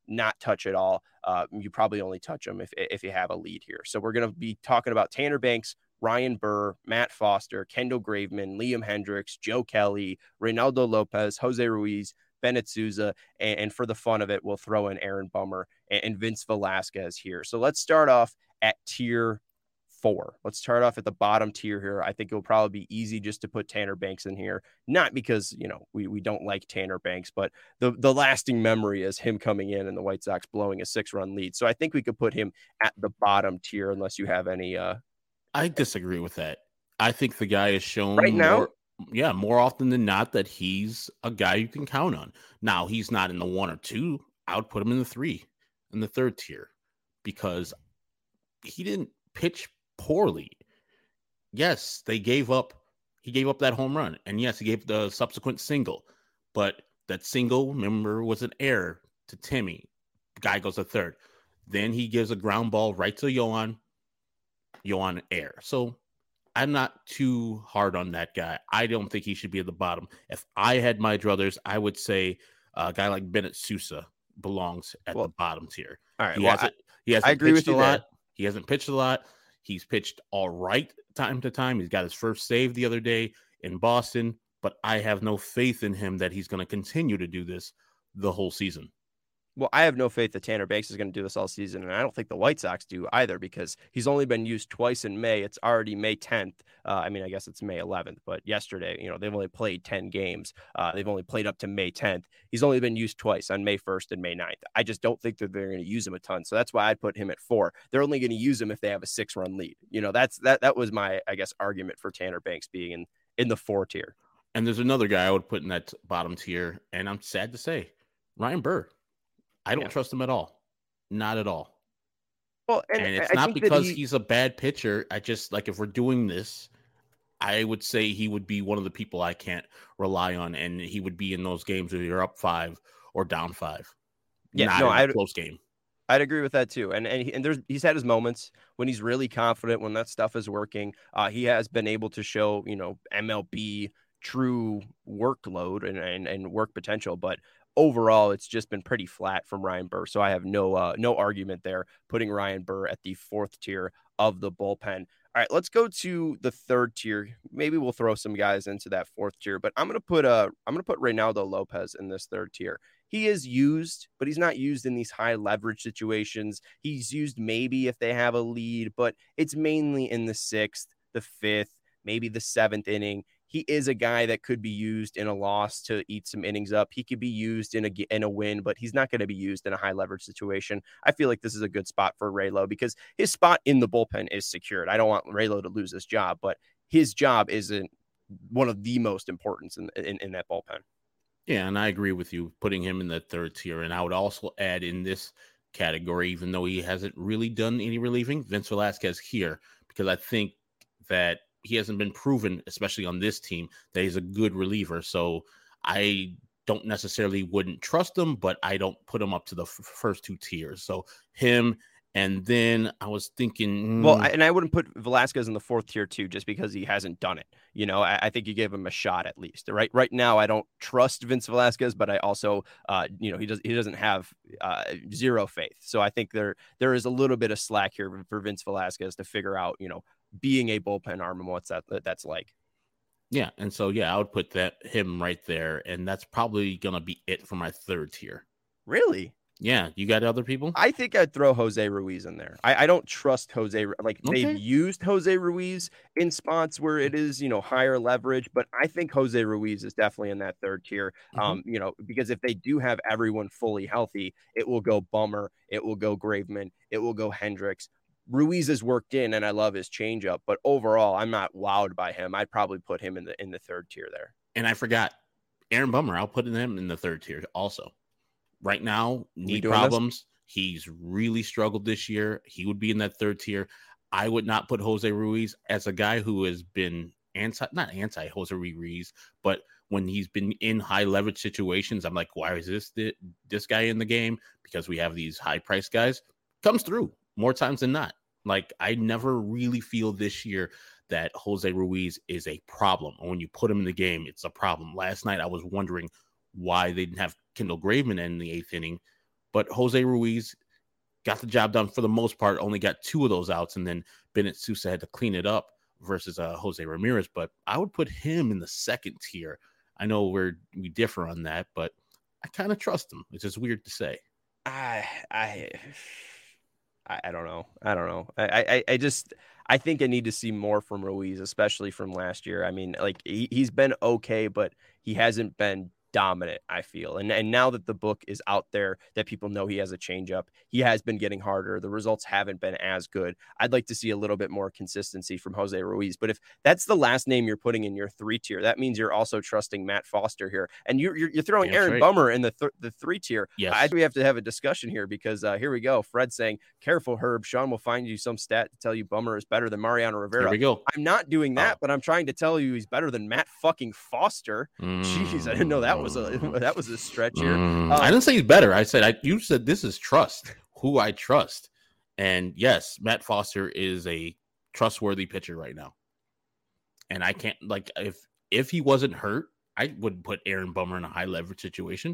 Speaker 1: not touch at all. You probably only touch them if you have a lead here. So we're going to be talking about Tanner Banks, Ryan Burr, Matt Foster, Kendall Graveman, Liam Hendriks, Joe Kelly, Reynaldo Lopez, Jose Ruiz, Bennett Souza, and for the fun of it, we'll throw in Aaron Bummer and Vince Velasquez here. So let's start off at tier 4. Let's start off at the bottom tier here. I think it'll probably be easy just to put Tanner Banks in here, not because, we don't like Tanner Banks, but the lasting memory is him coming in and the White Sox blowing a 6-run lead. So I think we could put him at the bottom tier unless you have any.
Speaker 3: I disagree with that. I think the guy is shown
Speaker 1: right now.
Speaker 3: More often than not that he's a guy you can count on. Now, he's not in the 1 or 2. I would put him in the 3, in the 3rd tier, because he didn't pitch poorly. Yes, he gave up that home run, and yes, he gave the subsequent single, but that single, remember, was an error to Timmy. The guy goes to 3rd. Then he gives a ground ball right to Yohan error. So I'm not too hard on that guy. I don't think he should be at the bottom. If I had my druthers, I would say a guy like Bennett Sousa belongs at the bottom tier.
Speaker 1: All right.
Speaker 3: He hasn't
Speaker 1: I agree
Speaker 3: pitched
Speaker 1: with you
Speaker 3: a lot.
Speaker 1: there.
Speaker 3: He hasn't pitched a lot. He's pitched all right time to time. He's got his first save the other day in Boston, but I have no faith in him that he's going to continue to do this the whole season.
Speaker 1: Well, I have no faith that Tanner Banks is going to do this all season, and I don't think the White Sox do either because he's only been used twice in May. It's already May 10th. I guess it's May 11th, but yesterday, they've only played 10 games. They've only played up to May 10th. He's only been used twice on May 1st and May 9th. I just don't think that they're going to use him a ton, so that's why I'd put him at 4. They're only going to use him if they have a 6-run lead. That was my, argument for Tanner Banks being in the 4 tier.
Speaker 3: And there's another guy I would put in that bottom tier, and I'm sad to say, Ryan Burr. I don't trust him at all. Not at all.
Speaker 1: Well,
Speaker 3: and it's not because he's a bad pitcher. I just, if we're doing this, I would say he would be one of the people I can't rely on, and he would be in those games where you're up 5 or down 5. Not a close game.
Speaker 1: I'd agree with that too. And he's had his moments when he's really confident, when that stuff is working. He has been able to show, MLB true workload and work potential, but overall, it's just been pretty flat from Ryan Burr. So I have no argument there, putting Ryan Burr at the 4th tier of the bullpen. All right, let's go to the 3rd tier. Maybe we'll throw some guys into that 4th tier, but I'm gonna put Reynaldo Lopez in this 3rd tier. He is used, but he's not used in these high leverage situations. He's used maybe if they have a lead, but it's mainly in the 6th, the 5th, maybe the 7th inning. He is a guy that could be used in a loss to eat some innings up. He could be used in a win, but he's not going to be used in a high leverage situation. I feel like this is a good spot for Raylo because his spot in the bullpen is secured. I don't want Raylo to lose his job, but his job isn't one of the most important in that bullpen.
Speaker 3: Yeah, and I agree with you putting him in the 3rd tier. And I would also add in this category, even though he hasn't really done any relieving, Vince Velasquez here, because I think that he hasn't been proven, especially on this team, that he's a good reliever. So I don't necessarily wouldn't trust him, but I don't put him up to the first 2 tiers. So him, and then I was thinking,
Speaker 1: well, and I wouldn't put Velasquez in the 4th tier too, just because he hasn't done it. I think you gave him a shot at least. Right now, I don't trust Vince Velasquez, but I also, he doesn't have zero faith. So I think there is a little bit of slack here for Vince Velasquez to figure out, being a bullpen arm and what's that's like.
Speaker 3: Yeah, and so I would put him right there, and that's probably gonna be it for my 3rd tier.
Speaker 1: Really?
Speaker 3: Yeah, you got other people?
Speaker 1: I think I'd throw Jose Ruiz in there. I don't trust Jose. They've used Jose Ruiz in spots where it is, higher leverage, but I think Jose Ruiz is definitely in that 3rd tier. Because if they do have everyone fully healthy, it will go Bummer, it will go Graveman, it will go Hendriks. Ruiz is worked in, and I love his changeup, but overall, I'm not wowed by him. I'd probably put him in the 3rd tier there.
Speaker 3: And I forgot Aaron Bummer. I'll put him in the 3rd tier also. Right now, knee problems. He's really struggled this year. He would be in that 3rd tier. I would not put Jose Ruiz as a guy who has been not anti Jose Ruiz, but when he's been in high leverage situations, I'm like, why is this guy in the game? Because we have these high price guys. Comes through more times than not. I never really feel this year that Jose Ruiz is a problem. When you put him in the game, it's a problem. Last night, I was wondering why they didn't have Kendall Graveman in the 8th inning, But Jose Ruiz got the job done for the most part, only got 2 of those outs, and then Bennett Sousa had to clean it up versus Jose Ramirez. But I would put him in the second tier. I know we differ on that, but I kind of trust him. It's just weird to say.
Speaker 1: I don't know. I think I need to see more from Ruiz, especially from last year. I mean, like he's been okay, but he hasn't been dominant, I feel. And now that the book is out there, that people know he has a changeup, he has been getting harder. The results haven't been as good. I'd like to see a little bit more consistency from Jose Ruiz. But if that's the last name you're putting in your 3 tier, that means you're also trusting Matt Foster here. And you're throwing Aaron Bummer in the 3 tier.
Speaker 3: Yes.
Speaker 1: I do have to have a discussion here because here we go. Fred saying, careful, Herb. Sean will find you some stat to tell you Bummer is better than Mariano Rivera.
Speaker 3: Here we go.
Speaker 1: I'm not doing that, but I'm trying to tell you he's better than Matt fucking Foster. Jeez, I didn't know that was a stretch here.
Speaker 3: I didn't say he's better. I said you said this is trust. Who I trust. And yes, Matt Foster is a trustworthy pitcher right now. And I can't, like, if he wasn't hurt, I would put Aaron Bummer in a high leverage situation.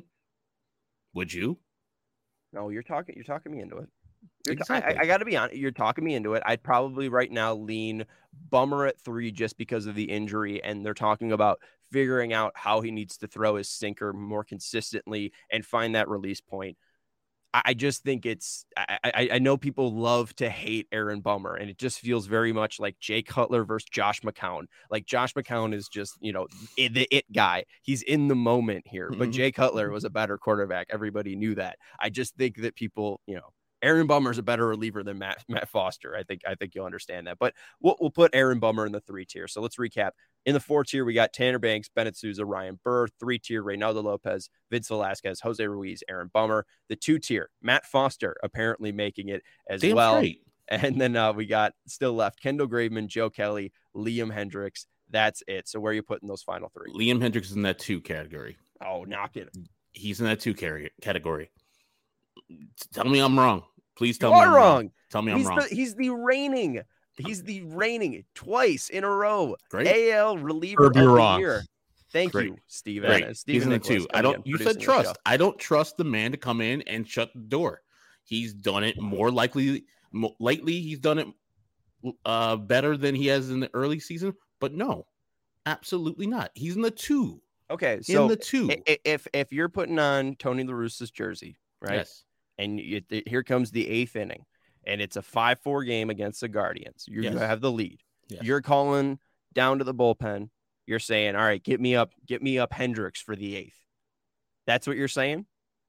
Speaker 3: Would you?
Speaker 1: No, you're talking me into it.
Speaker 3: Exactly.
Speaker 1: I got to be honest. You're talking me into it. I'd probably right now lean Bummer at 3 just because of the injury. And they're talking about figuring out how he needs to throw his sinker more consistently and find that release point. I just think I know people love to hate Aaron Bummer, and it just feels very much like Jay Cutler versus Josh McCown. Like Josh McCown is just, the it guy. He's in the moment here, but Jay Cutler was a better quarterback. Everybody knew that. I just think that people, Aaron Bummer is a better reliever than Matt Foster. I think you'll understand that. But we'll put Aaron Bummer in the 3 tier. So let's recap. In the 4 tier, we got Tanner Banks, Bennett Sousa, Ryan Burr. 3 tier, Reynaldo Lopez, Vince Velasquez, Jose Ruiz, Aaron Bummer. The 2 tier, Matt Foster apparently making it as
Speaker 3: Damn
Speaker 1: well.
Speaker 3: straight.
Speaker 1: And then we got still left Kendall Graveman, Joe Kelly, Liam Hendricks. That's it. So where are you putting those final 3?
Speaker 3: Liam Hendricks is in that 2 category.
Speaker 1: Oh, knock it.
Speaker 3: He's in that 2 category. Tell me I'm wrong. Please tell
Speaker 1: me
Speaker 3: I'm
Speaker 1: wrong.
Speaker 3: Tell me I'm wrong.
Speaker 1: He's the reigning twice in a row.
Speaker 3: Great.
Speaker 1: AL reliever of the year. Thank you, Steven.
Speaker 3: Great. He's in the 2. You said trust. I don't trust the man to come in and shut the door. He's done it lately. He's done it better than he has in the early season. But no, absolutely not. He's in the 2.
Speaker 1: Okay, so
Speaker 3: in the 2.
Speaker 1: If you're putting on Tony La Russa's jersey, right?
Speaker 3: Yes.
Speaker 1: And here comes the 8th inning, and it's a 5-4 game against the Guardians. You have the lead.
Speaker 3: Yes.
Speaker 1: You're calling down to the bullpen. You're saying, all right, get me up Hendricks for the 8th. That's what you're saying?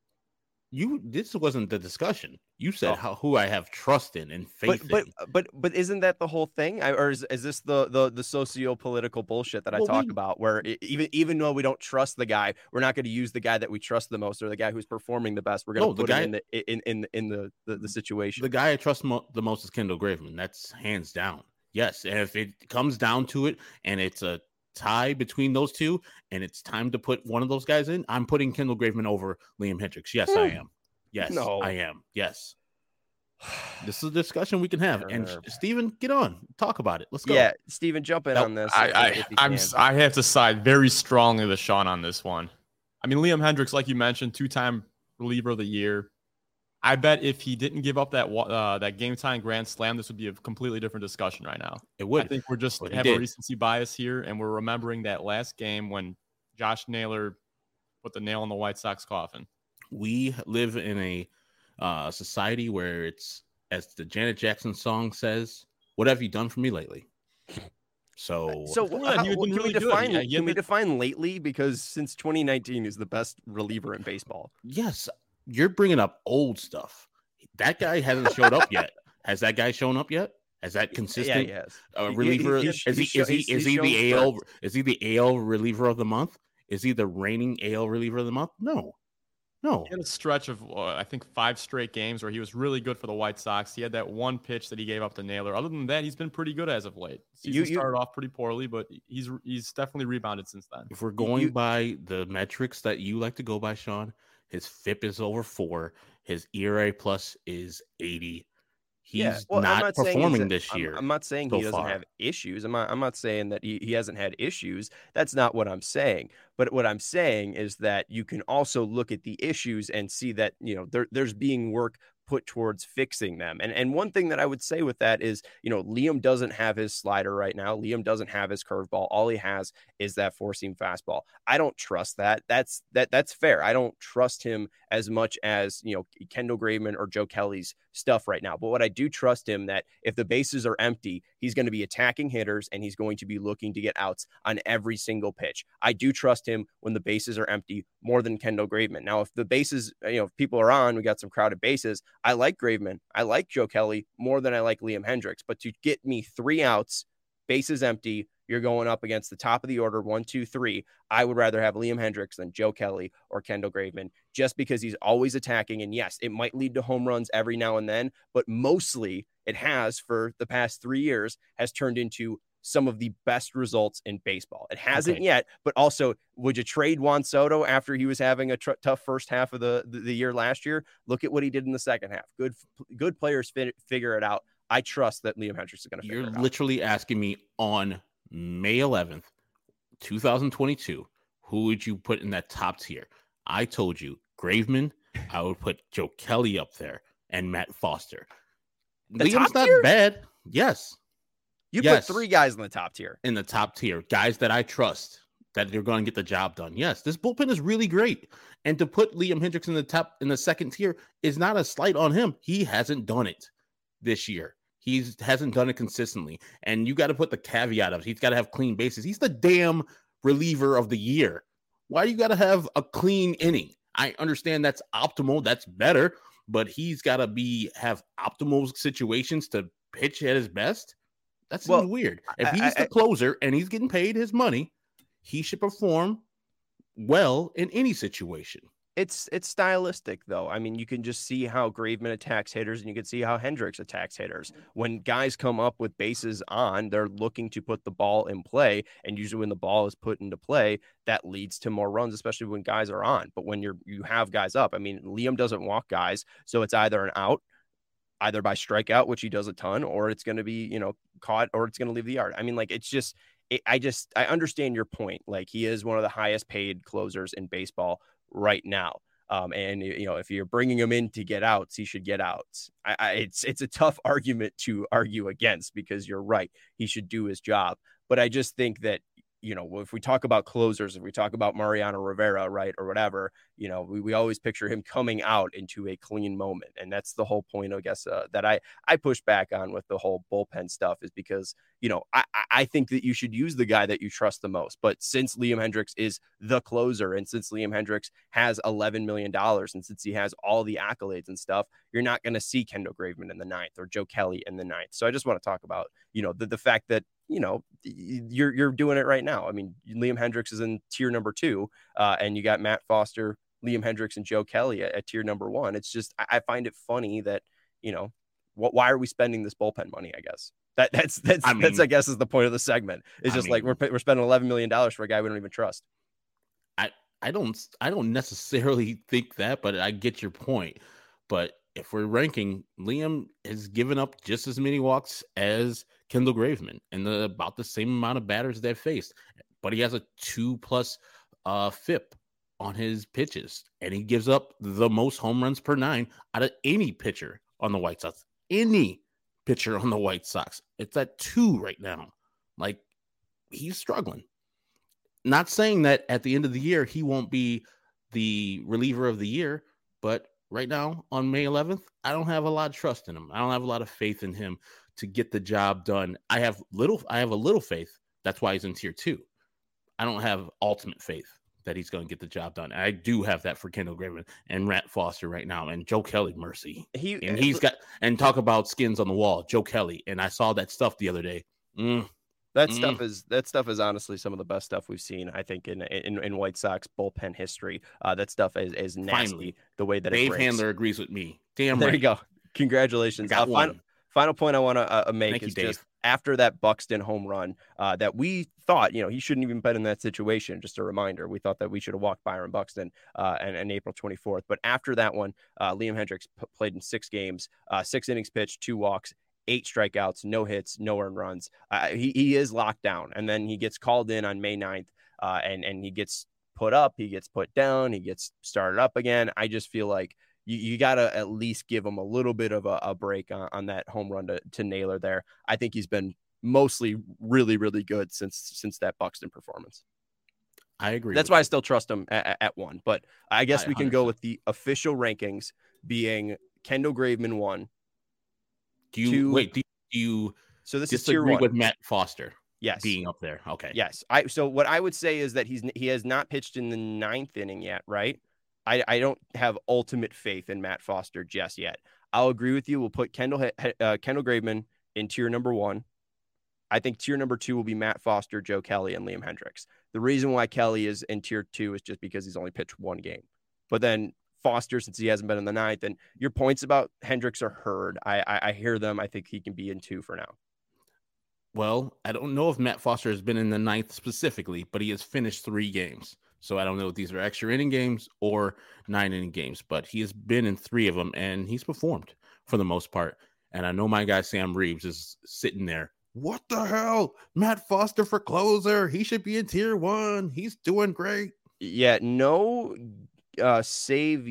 Speaker 3: This wasn't the discussion. You said who I have trust in and faith in.
Speaker 1: But isn't that the whole thing? Or is this the socio-political bullshit that I talk about, where even though we don't trust the guy, we're not going to use the guy that we trust the most or the guy who's performing the best. We're going to put him in the situation.
Speaker 3: The guy I trust the most is Kendall Graveman. That's hands down. Yes, and if it comes down to it and it's a tie between those 2 and it's time to put one of those guys in, I'm putting Kendall Graveman over Liam Hendricks. Yes, I am. Yes, no. I am. Yes. This is a discussion we can have. And Steven, get on. Talk about it. Let's go.
Speaker 1: Yeah, Steven, jump in on this.
Speaker 4: I have to side very strongly with Sean on this one. I mean, Liam Hendricks, like you mentioned, 2-time reliever of the year. I bet if he didn't give up that game-time grand slam, this would be a completely different discussion right now.
Speaker 3: It would.
Speaker 4: I think we're just have a recency bias here, and we're remembering that last game when Josh Naylor put the nail in the White Sox coffin.
Speaker 3: We live in a society where it's, as the Janet Jackson song says, "What have you done for me lately?" So
Speaker 1: can we define lately? Because since 2019 is the best reliever in baseball.
Speaker 3: Yes. You're bringing up old stuff. That guy hasn't showed up yet. Has that guy shown up yet? Has that consistent reliever? Is he the AL reliever of the month? Is he the reigning AL reliever of the month? No.
Speaker 4: He had a stretch of I think 5 straight games where he was really good for the White Sox. He had that one pitch that he gave up to Naylor. Other than that, he's been pretty good as of late. Season started off pretty poorly, but he's definitely rebounded since then.
Speaker 3: If we're going by the metrics that you like to go by, Sean, his FIP is over 4. His ERA plus is 80. He's
Speaker 1: well, I'm
Speaker 3: not
Speaker 1: not saying
Speaker 3: performing this
Speaker 1: I'm,
Speaker 3: year
Speaker 1: I'm not saying
Speaker 3: so
Speaker 1: he doesn't
Speaker 3: far.
Speaker 1: have issues. I'm not saying that he hasn't had issues. That's not what I'm saying. But what I'm saying is that you can also look at the issues and see that, there's being work put towards fixing them. And one thing that I would say with that is, Liam doesn't have his slider right now. Liam doesn't have his curveball. All he has is that four-seam fastball. I don't trust that. That's fair. I don't trust him as much as, Kendall Graveman or Joe Kelly's stuff right now. But what I do trust him that if the bases are empty, he's going to be attacking hitters and he's going to be looking to get outs on every single pitch. I do trust him when the bases are empty more than Kendall Graveman. Now, if the bases, if people are on, we got some crowded bases. I like Graveman. I like Joe Kelly more than I like Liam Hendriks. But to get me 3 outs, bases empty, you're going up against the top of the order, 1, 2, 3. I would rather have Liam Hendriks than Joe Kelly or Kendall Graveman, just because he's always attacking. And yes, it might lead to home runs every now and then, but mostly it has for the past 3 years has turned into some of the best results in baseball. It hasn't yet, but also, would you trade Juan Soto after he was having a tough first half of the year last year? Look at what he did in the second half. Good players figure it out. I trust that Liam Hendriks is going to figure it out.
Speaker 3: You're literally asking me on May 11th, 2022, who would you put in that top tier? I told you Graveman. I would put Joe Kelly up there and Matt Foster. Liam's not bad. Yes.
Speaker 1: You put 3 guys in the top tier.
Speaker 3: In the top tier, guys that I trust that they're going to get the job done. Yes, this bullpen is really great. And to put Liam Hendriks in the second tier is not a slight on him. He hasn't done it this year. He hasn't done it consistently. And you got to put the caveat of he's got to have clean bases. He's the damn reliever of the year. Why do you got to have a clean inning? I understand that's optimal. That's better. But he's got to have optimal situations to pitch at his best. That seems weird. If he's the closer and he's getting paid his money, he should perform well in any situation.
Speaker 1: It's stylistic, though. I mean, you can just see how Graveman attacks hitters, and you can see how Hendriks attacks hitters. When guys come up with bases on, they're looking to put the ball in play, and usually when the ball is put into play, that leads to more runs, especially when guys are on. But when you have guys up, I mean, Liam doesn't walk guys, so it's either an out, either by strikeout, which he does a ton, or it's going to be, caught, or it's going to leave the yard. I mean, like, it's just, I understand your point. Like, he is one of the highest paid closers in baseball right now. And if you're bringing him in to get outs, he should get outs. It's a tough argument to argue against, because you're right. He should do his job. But I just think that, if we talk about closers, if we talk about Mariano Rivera, right, or whatever, we always picture him coming out into a clean moment. And that's the whole point, I guess, that I push back on with the whole bullpen stuff, is because, I think that you should use the guy that you trust the most. But since Liam Hendriks is the closer, and since Liam Hendriks has $11 million, and since he has all the accolades and stuff, you're not going to see Kendall Graveman in the 9th or Joe Kelly in the 9th. So I just want to talk about, the fact that, you're doing it right now. I mean, Liam Hendriks is in tier number 2, and you got Matt Foster, Liam Hendriks, and Joe Kelly at tier number 1. It's just, I find it funny that, why are we spending this bullpen money? I guess that's I guess is the point of the segment. It's just like we're spending $11 million for a guy we don't even trust.
Speaker 3: I don't necessarily think that, but I get your point. But if we're ranking, Liam has given up just as many walks as Kendall Graveman, and about the same amount of batters they've faced. But he has a 2+ FIP on his pitches, and he gives up the most home runs per 9 out of any pitcher on the White Sox. Any pitcher on the White Sox. It's at 2 right now. Like, he's struggling. Not saying that at the end of the year he won't be the reliever of the year, but right now on May 11th, I don't have a lot of trust in him. I don't have a lot of faith in him to get the job done. I have a little faith. That's why he's in tier 2. I don't have ultimate faith that he's going to get the job done. I do have that for Kendall Graveman and Matt Foster right now, and Joe Kelly, mercy. Talk about skins on the wall, Joe Kelly. And I saw that stuff the other day.
Speaker 1: That stuff is honestly some of the best stuff we've seen, I think, in White Sox bullpen history. That stuff is nasty. Finally, the way that
Speaker 3: Dave
Speaker 1: it breaks.
Speaker 3: Handler agrees with me. Damn
Speaker 1: there
Speaker 3: right.
Speaker 1: you go. Congratulations. Final point I want to make
Speaker 3: Thank you,
Speaker 1: is
Speaker 3: Dave.
Speaker 1: just after that Buxton home run that we thought, he shouldn't even been in that situation. Just a reminder, we thought that we should have walked Byron Buxton and April 24th. But after that one, Liam Hendriks played in 6 games, 6 innings pitched, 2 walks, 8 strikeouts, no hits, no earned runs. He is locked down. And then he gets called in on May 9th and he gets put up, he gets put down, he gets started up again. I just feel like you got to at least give him a little bit of a break on that home run to Naylor there. I think he's been mostly really, really good since that Buxton performance.
Speaker 3: I agree.
Speaker 1: That's why I still trust him at 1. But I guess we can
Speaker 3: 100%.
Speaker 1: go with the official rankings being Kendall Graveman 1.
Speaker 3: Do you
Speaker 1: So this is tier
Speaker 3: disagree
Speaker 1: 1
Speaker 3: with Matt Foster?
Speaker 1: Yes.
Speaker 3: Being up there. Okay.
Speaker 1: Yes. So what I would say is that he has not pitched in the 9th inning yet, right? I don't have ultimate faith in Matt Foster just yet. I'll agree with you. We'll put Kendall Graveman in tier number 1. I think tier number 2 will be Matt Foster, Joe Kelly, and Liam Hendriks. The reason why Kelly is in tier 2 is just because he's only pitched 1 game. But then Foster, since he hasn't been in the 9th, and your points about Hendriks are heard. I hear them. I think he can be in 2 for now.
Speaker 3: Well, I don't know if Matt Foster has been in the 9th specifically, but he has finished 3 games. So I don't know if these are extra inning games or 9-inning games, but he has been in 3 of them and he's performed for the most part. And I know my guy Sam Reeves is sitting there. What the hell? Matt Foster for closer. He should be in tier 1. He's doing great.
Speaker 1: Yeah, no save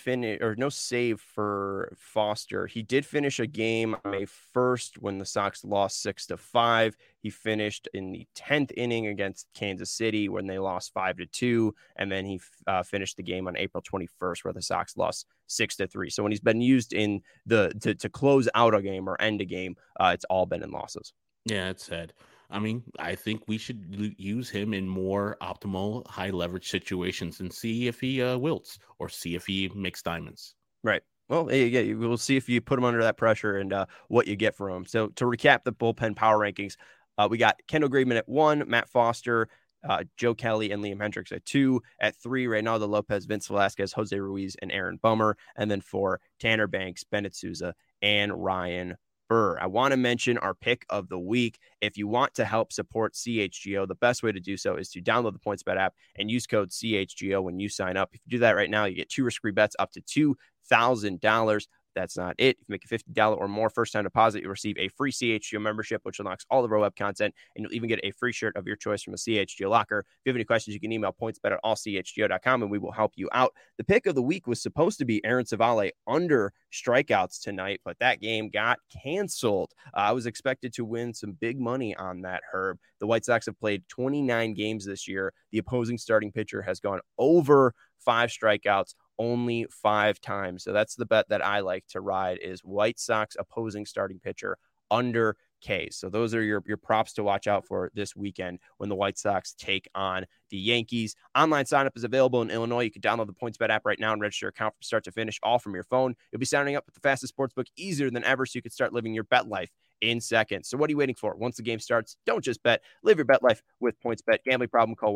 Speaker 1: for Foster. He did finish a game on May 1st when the Sox lost 6-5. He finished in the 10th inning against Kansas City when they lost 5-2, and then he finished the game on April 21st where the Sox lost 6-3. So when he's been used in to close out a game or end a game, it's all been in losses.
Speaker 3: Yeah, it's sad. I mean, I think we should use him in more optimal high leverage situations and see if he wilts or see if he makes diamonds.
Speaker 1: Right. Well, yeah, we'll see if you put him under that pressure and what you get from him. So to recap the bullpen power rankings, we got Kendall Graveman at 1, Matt Foster, Joe Kelly, and Liam Hendriks at 2. At 3, Reynaldo Lopez, Vince Velasquez, Jose Ruiz, and Aaron Bummer. And then 4, Tanner Banks, Bennett Sousa, and Ryan Burr. I want to mention our pick of the week. If you want to help support CHGO, the best way to do so is to download the PointsBet app and use code CHGO when you sign up. If you do that right now, you get 2 risk-free bets up to $2,000. That's not it. If you make a $50 or more first-time deposit, you'll receive a free CHGO membership, which unlocks all the Row Web content, and you'll even get a free shirt of your choice from the CHGO locker. If you have any questions, you can email pointsbet@allchgo.com, and we will help you out. The pick of the week was supposed to be Aaron Civale under strikeouts tonight, but that game got canceled. I was expected to win some big money on that, Herb. The White Sox have played 29 games this year. The opposing starting pitcher has gone over 5 strikeouts only 5 times. So that's the bet that I like to ride is White Sox opposing starting pitcher under K. So those are your props to watch out for this weekend when the White Sox take on the Yankees. Online signup is available in Illinois. You can download the PointsBet app right now and register your account from start to finish, all from your phone. You'll be signing up with the fastest sportsbook easier than ever, so you can start living your bet life in seconds. So what are you waiting for? Once the game starts, don't just bet. Live your bet life with PointsBet. Gambling problem, call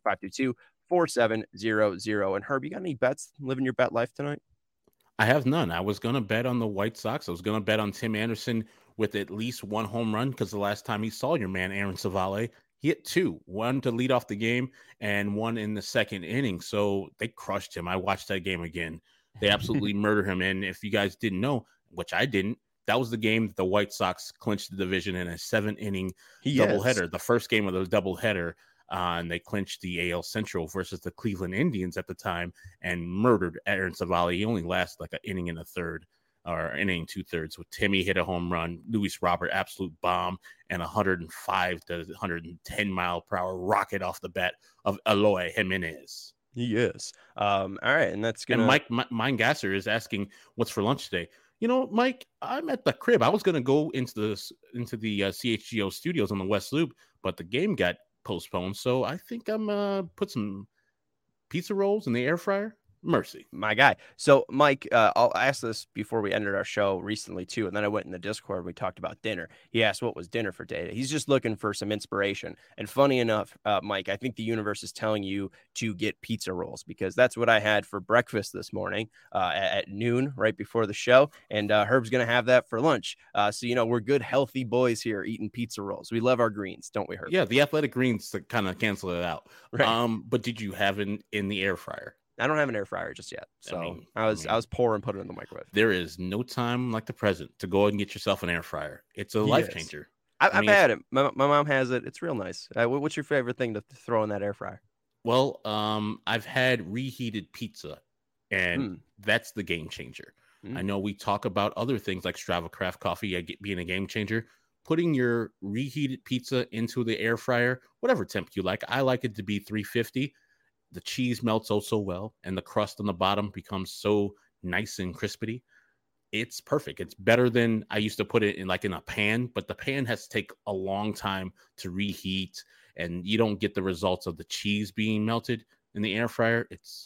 Speaker 1: 1-800-522-4700. And Herb, you got any bets living your bet life tonight?
Speaker 3: I have none. I was going to bet on the White Sox. I was going to bet on Tim Anderson with at least 1 home run because the last time he saw your man, Aaron Civale, he hit 2, 1 to lead off the game and 1 in the 2nd inning. So they crushed him. I watched that game again. They absolutely murdered him. And if you guys didn't know, which I didn't, that was the game that the White Sox clinched the division in a 7-inning doubleheader. The first game of the doubleheader. And they clinched the AL Central versus the Cleveland Indians at the time and murdered Aaron Civale. He only lasted like an inning and a third or inning 2/3 with Timmy hit a home run, Luis Robert absolute bomb, and 105 to 110 mile per hour rocket off the bat of Eloy Jimenez.
Speaker 1: Yes. All right. And that's going
Speaker 3: to. And Mike Gasser is asking what's for lunch today. You know, Mike, I'm at the crib. I was going to go into the CHGO studios on the West Loop, but the game got postponed, so I think I'm put some pizza rolls in the air fryer. Mercy.
Speaker 1: My guy. So, Mike, I'll ask this before we ended our show recently, too. And then I went in the Discord and we talked about dinner. He asked what was dinner for Data. He's just looking for some inspiration. And funny enough, Mike, I think the universe is telling you to get pizza rolls because that's what I had for breakfast this morning at noon, right before the show. And Herb's going to have that for lunch. So, we're good, healthy boys here eating pizza rolls. We love our greens, don't we, Herb?
Speaker 3: Yeah, the athletic greens to kind of cancel it out.
Speaker 1: Right.
Speaker 3: But did you have it in the air fryer?
Speaker 1: I don't have an air fryer just yet. So I was poor and put it in the microwave.
Speaker 3: There is no time like the present to go and get yourself an air fryer. It's a life changer.
Speaker 1: I've had it. My mom has it. It's real nice. What's your favorite thing to throw in that air fryer?
Speaker 3: Well, I've had reheated pizza, and that's the game changer. I know we talk about other things like Strava Craft Coffee being a game changer. Putting your reheated pizza into the air fryer, whatever temp you like. I like it to be 350. The cheese melts so well, and the crust on the bottom becomes so nice and crispy. It's perfect. It's better than I used to put it in a pan, but the pan has to take a long time to reheat, and you don't get the results of the cheese being melted in the air fryer. It's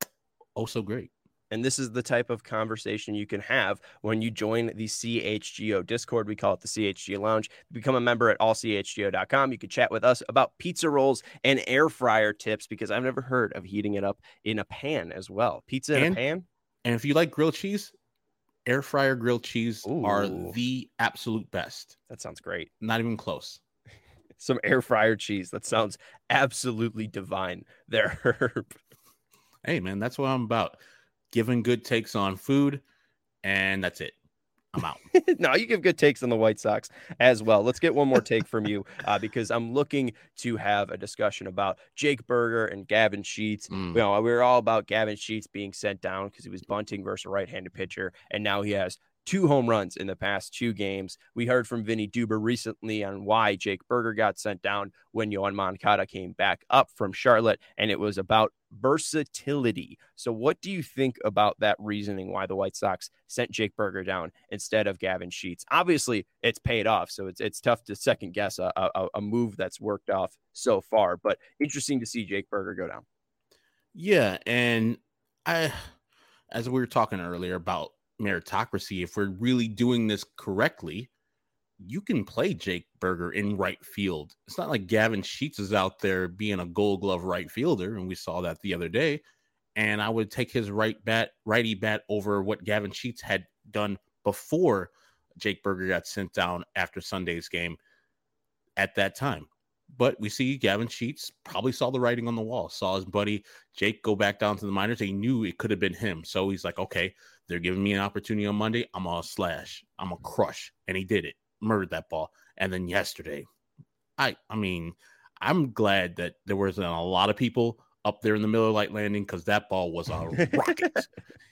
Speaker 3: so great.
Speaker 1: And this is the type of conversation you can have when you join the CHGO Discord. We call it the CHGO Lounge. Become a member at allchgo.com. You can chat with us about pizza rolls and air fryer tips because I've never heard of heating it up in a pan as well. Pizza in a pan?
Speaker 3: And if you like grilled cheese, air fryer grilled cheese are the absolute best.
Speaker 1: That sounds great.
Speaker 3: Not even close.
Speaker 1: Some air fryer cheese. That sounds absolutely divine there, Herb.
Speaker 3: Hey, man, that's what I'm about. Giving good takes on food, and that's it. I'm out.
Speaker 1: No, you give good takes on the White Sox as well. Let's get one more take from you because I'm looking to have a discussion about Jake Burger and Gavin Sheets. We're all about Gavin Sheets being sent down because he was bunting versus a right-handed pitcher, and now he has 2 home runs in the past 2 games. We heard from Vinny Duber recently on why Jake Burger got sent down when Yoan Moncada came back up from Charlotte, and it was about versatility. So what do you think about that reasoning why the White Sox sent Jake Burger down instead of Gavin Sheets? Obviously, it's paid off, so it's tough to second guess a move that's worked off so far, but interesting to see Jake Burger go down.
Speaker 3: Yeah, and as we were talking earlier about meritocracy, if we're really doing this correctly, you can play Jake Burger in right field. It's not like Gavin Sheets is out there being a Gold Glove right fielder, and we saw that the other day. And I would take his righty bat over what Gavin Sheets had done before Jake Burger got sent down after Sunday's game at that time. But we see Gavin Sheets probably saw the writing on the wall, saw his buddy Jake go back down to the minors. He knew it could have been him. So he's like, okay, they're giving me an opportunity on Monday. I'm going to slash. I'm going to crush. And he did it. Murdered that ball. And then yesterday, I mean, I'm glad that there wasn't a lot of people up there in the Miller Lite landing because that ball was a rocket.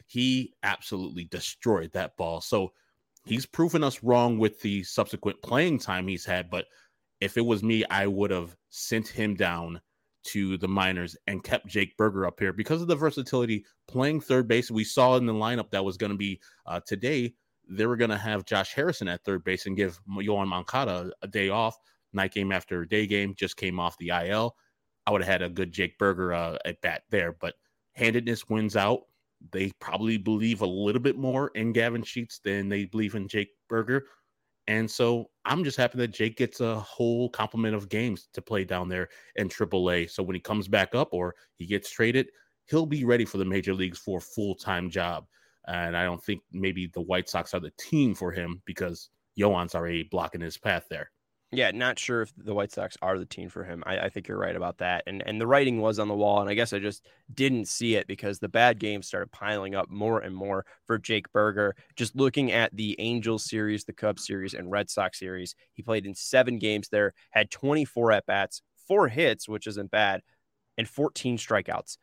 Speaker 3: He absolutely destroyed that ball. So he's proven us wrong with the subsequent playing time he's had. But if it was me, I would have sent him down to the minors and kept Jake Burger up here because of the versatility playing third base. We saw in the lineup that was going to be today. They were going to have Josh Harrison at third base and give Yoan Moncada a day off. Night game after day game, just came off the IL. I would have had a good Jake Burger at bat there, but handedness wins out. They probably believe a little bit more in Gavin Sheets than they believe in Jake Burger. And so I'm just happy that Jake gets a whole complement of games to play down there in AAA. So when he comes back up or he gets traded, he'll be ready for the major leagues for a full-time job. And I don't think maybe the White Sox are the team for him because Yoan's already blocking his path there.
Speaker 1: Yeah, not sure if the White Sox are the team for him. I think you're right about that. And the writing was on the wall, and I guess I just didn't see it because the bad games started piling up more and more for Jake Burger. Just looking at the Angels series, the Cubs series, and Red Sox series, he played in 7 games there, had 24 at-bats, 4 hits, which isn't bad, and 14 strikeouts.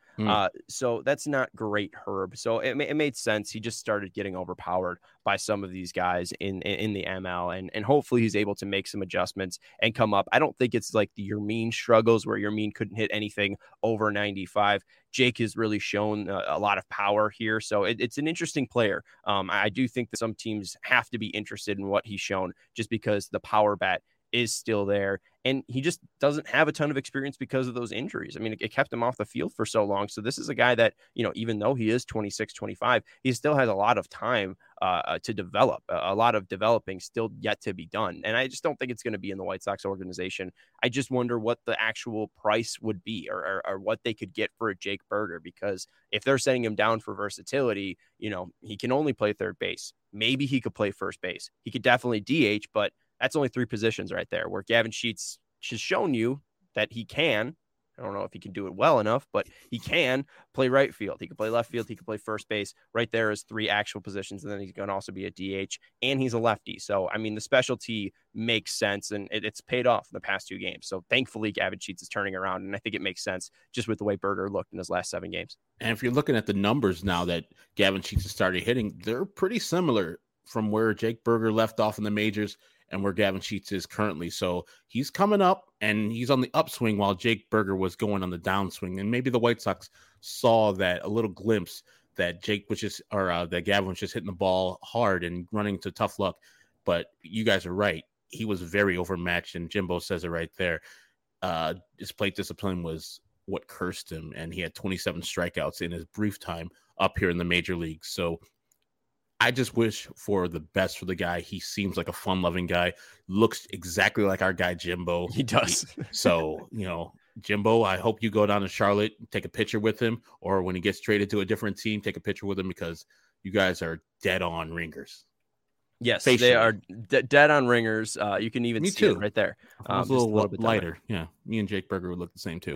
Speaker 1: So that's not great, Herb. So it made sense. He just started getting overpowered by some of these guys in the ML, and hopefully he's able to make some adjustments and come up. I don't think it's like the Yermin struggles where Yermin couldn't hit anything over 95. Jake has really shown a lot of power here. So it's an interesting player. I do think that some teams have to be interested in what he's shown just because the power bat is still there. And he just doesn't have a ton of experience because of those injuries. I mean, it kept him off the field for so long. So this is a guy that, even though he is 26, 25, he still has a lot of time to develop, a lot of developing still yet to be done. And I just don't think it's going to be in the White Sox organization. I just wonder what the actual price would be or what they could get for a Jake Burger, because if they're setting him down for versatility, he can only play third base. Maybe he could play first base. He could definitely DH, but that's only 3 positions right there, where Gavin Sheets has shown you that he can. I don't know if he can do it well enough, but he can play right field. He can play left field. He can play first base. Right there is 3 actual positions. And then he's going to also be a DH, and he's a lefty. So, I mean, the specialty makes sense, and it's paid off in the past 2 games. So thankfully, Gavin Sheets is turning around, and I think it makes sense just with the way Burger looked in his last 7 games.
Speaker 3: And if you're looking at the numbers now that Gavin Sheets has started hitting, they're pretty similar from where Jake Burger left off in the majors and where Gavin Sheets is currently. So he's coming up and he's on the upswing while Jake Burger was going on the downswing. And maybe the White Sox saw that, a little glimpse that that Gavin was just hitting the ball hard and running to tough luck. But you guys are right. He was very overmatched, and Jimbo says it right there. His plate discipline was what cursed him, and he had 27 strikeouts in his brief time up here in the major leagues. So I just wish for the best for the guy. He seems like a fun-loving guy. Looks exactly like our guy Jimbo.
Speaker 1: He does.
Speaker 3: So, Jimbo, I hope you go down to Charlotte, take a picture with him, or when he gets traded to a different team, take a picture with him, because you guys are dead on ringers.
Speaker 1: Yes, they are dead on ringers. You can even see it right there.
Speaker 3: If I was a little bit lighter. Yeah, me and Jake Burger would look the same too.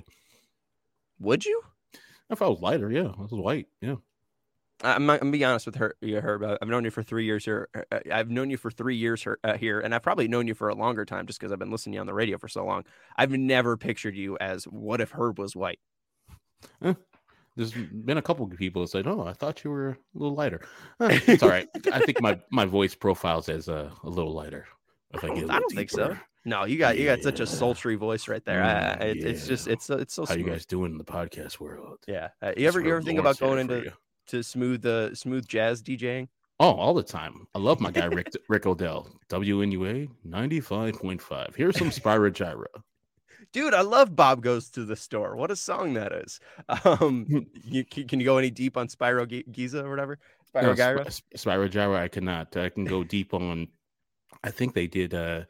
Speaker 1: Would you?
Speaker 3: If I was lighter, yeah. If I was white, yeah.
Speaker 1: I'm going to be honest with Herb. I've known you for 3 years here. I've known you for 3 years here, and I've probably known you for a longer time just because I've been listening to you on the radio for so long. I've never pictured you as, what if Herb was white?
Speaker 3: There's been a couple of people that said, "Oh, I thought you were a little lighter." It's all right. I think my voice profiles as a little lighter. If I
Speaker 1: don't think so. No, you got such a sultry voice right there. It's so smooth.
Speaker 3: How you guys doing in the podcast world?
Speaker 1: Yeah. You ever think about going into smooth jazz DJing?
Speaker 3: Oh, all the time. I love my guy Rick Odell. WNUA 95.5. Here's some Spyro Gyra.
Speaker 1: Dude, I love Bob Goes to the Store. What a song that is. Can you go any deep on Spyro Giza or whatever? Gyra?
Speaker 3: Spyro Gyra, I cannot. I can go deep on, I think they did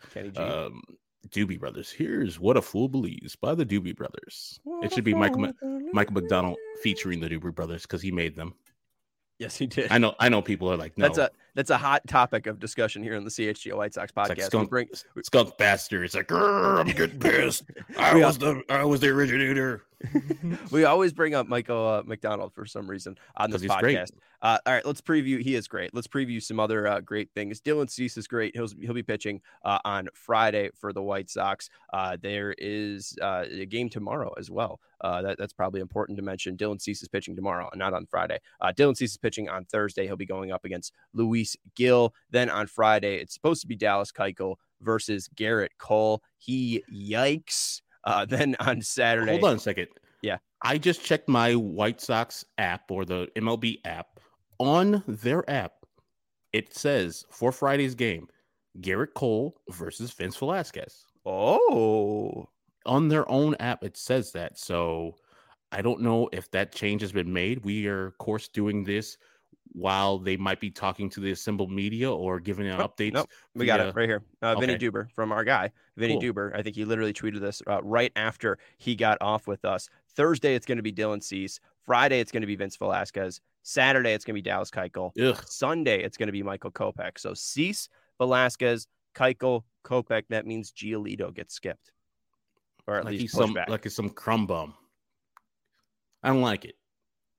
Speaker 3: Doobie Brothers. Here's What a Fool Believes by the Doobie Brothers. It should be Michael McDonald featuring the Doobie Brothers because he made them.
Speaker 1: Yes, he did.
Speaker 3: I know people are like, no.
Speaker 1: That's a hot topic of discussion here on the CHGO White Sox podcast.
Speaker 3: Like skunk bastard. It's like, I'm getting pissed. I was the originator.
Speaker 1: We always bring up Michael McDonald for some reason on this podcast. All right, let's preview. He is great. Let's preview some other great things. Dylan Cease is great. He'll be pitching on Friday for the White Sox. There is a game tomorrow as well. That's probably important to mention. Dylan Cease is pitching tomorrow, not on Friday. Dylan Cease is pitching on Thursday. He'll be going up against Luis Gil. Then on Friday, it's supposed to be Dallas Keuchel versus Garrett Cole. Yikes. Then on Saturday.
Speaker 3: Hold on a second.
Speaker 1: Yeah.
Speaker 3: I just checked my White Sox app or the MLB app. On their app, it says for Friday's game, Garrett Cole versus Vince Velasquez.
Speaker 1: Oh.
Speaker 3: On their own app, it says that. So I don't know if that change has been made. We are, of course, doing this while they might be talking to the assembled media or giving an updates.
Speaker 1: Nope. We got it right here. Vinny
Speaker 3: Okay.
Speaker 1: Duber from our guy, Vinny Duber. I think he literally tweeted this right after he got off with us. Thursday, it's going to be Dylan Cease. Friday, it's going to be Vince Velasquez. Saturday, it's going to be Dallas Keuchel.
Speaker 3: Ugh.
Speaker 1: Sunday, it's going to be Michael Kopech. So Cease, Velasquez, Keuchel, Kopech. That means Giolito gets skipped. Or at least pushed back.
Speaker 3: Like it's some crumb bum. I don't like it.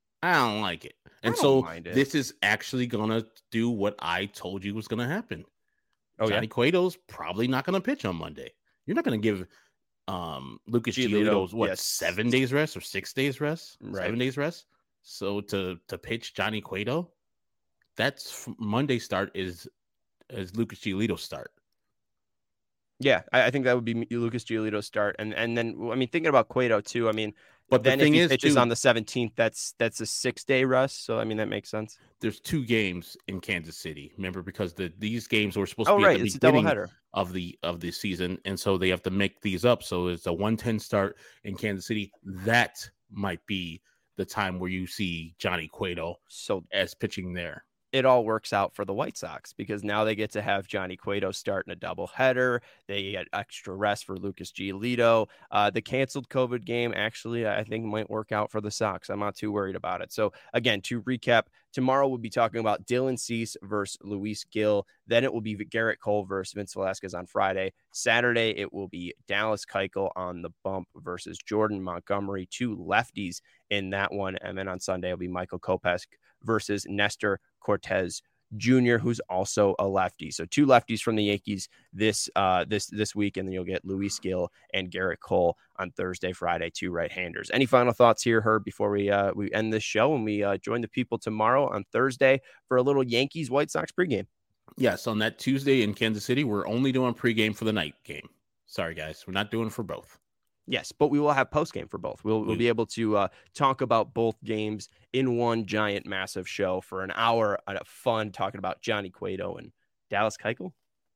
Speaker 3: And so this is actually going to do what I told you was going to happen. Johnny Cueto's probably not going to pitch on Monday. You're not going to give Lucas Giolito's 7 days rest or 6 days rest?
Speaker 1: Right.
Speaker 3: 7 days rest? So to pitch Johnny Cueto, that's Monday start is Lucas Giolito's start.
Speaker 1: Yeah, I think that would be Lucas Giolito's start. And then, I mean, thinking about Cueto too, I mean,
Speaker 3: But the
Speaker 1: then if
Speaker 3: thing
Speaker 1: he
Speaker 3: is,
Speaker 1: pitches
Speaker 3: too,
Speaker 1: on the 17th, that's a 6-day rest. So, I mean, that makes sense.
Speaker 3: there's 2 games in Kansas City. Remember, because these games were supposed to
Speaker 1: Oh,
Speaker 3: be
Speaker 1: right.
Speaker 3: at the
Speaker 1: It's a
Speaker 3: beginning
Speaker 1: doubleheader.
Speaker 3: of the season, and so they have to make these up. So it's a 1:10 start in Kansas City. That might be the time where you see Johnny Cueto
Speaker 1: So
Speaker 3: as pitching there.
Speaker 1: it all works out for the White Sox because now they get to have Johnny Cueto start in a doubleheader. They get extra rest for Lucas Giolito. The canceled COVID game actually, I think, might work out for the Sox. I'm not too worried about it. So again, to recap, tomorrow we'll be talking about Dylan Cease versus Luis Gil. Then it will be Garrett Cole versus Vince Velasquez on Friday. Saturday, it will be Dallas Keuchel on the bump versus Jordan Montgomery, 2 lefties in that one. And then on Sunday, it'll be Michael Kopech versus Nestor Cortez Jr., who's also a lefty. So 2 lefties from the Yankees this week, and then you'll get Luis Gil and Garrett Cole on Thursday, Friday, 2 right-handers. Any final thoughts here, Herb, before we end this show and we join the people tomorrow on Thursday for a little Yankees White Sox pregame?
Speaker 3: Yes, on that Tuesday in Kansas City, we're only doing pregame for the night game. Sorry, guys, we're not doing for both.
Speaker 1: Yes, but we will have postgame for both. We'll be able to talk about both games in one giant, massive show for an hour of fun talking about Johnny Cueto and Dallas Keuchel.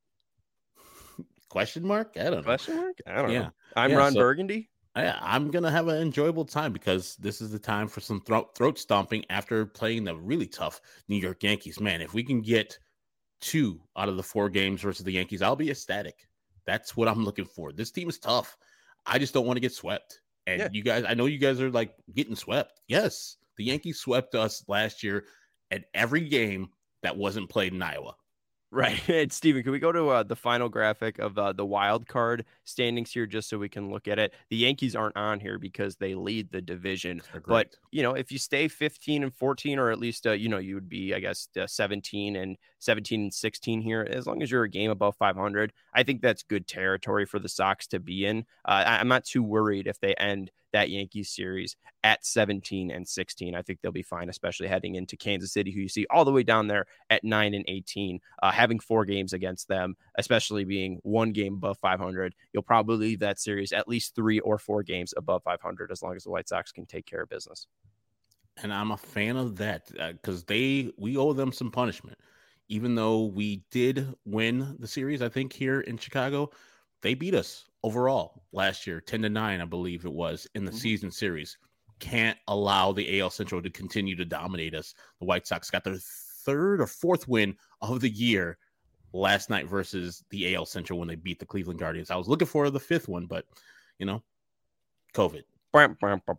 Speaker 3: Question mark? I don't know.
Speaker 1: Question mark? I don't know.
Speaker 3: I'm
Speaker 1: Ron Burgundy.
Speaker 3: I'm going to have an enjoyable time because this is the time for some throat stomping after playing the really tough New York Yankees. Man, if we can get 2 out of the 4 games versus the Yankees, I'll be ecstatic. That's what I'm looking for. This team is tough. I just don't want to get swept. And you guys, I know you guys are like getting swept. Yes, the Yankees swept us last year at every game that wasn't played in Iowa.
Speaker 1: Right. And Steven, can we go to the final graphic of the wild card standings here just so we can look at it? The Yankees aren't on here because they lead the division. But, if you stay 15 and 14, or at least, you would be, I guess, 17 and 16 here, as long as you're a game above 500, I think that's good territory for the Sox to be in. I'm not too worried if they end that Yankees series at 17 and 16. I think they'll be fine, especially heading into Kansas City, who you see all the way down there at 9 and 18. Having 4 games against them, especially being 1 game above 500, you'll probably leave that series at least 3 or 4 games above 500 as long as the White Sox can take care of business.
Speaker 3: And I'm a fan of that because we owe them some punishment. Even though we did win the series, I think here in Chicago, they beat us overall last year, 10-9, I believe it was, in the season series. Can't allow the AL Central to continue to dominate us. The White Sox got their 3rd or 4th win of the year last night versus the AL Central when they beat the Cleveland Guardians. I was looking for the 5th one, but, COVID.
Speaker 1: That's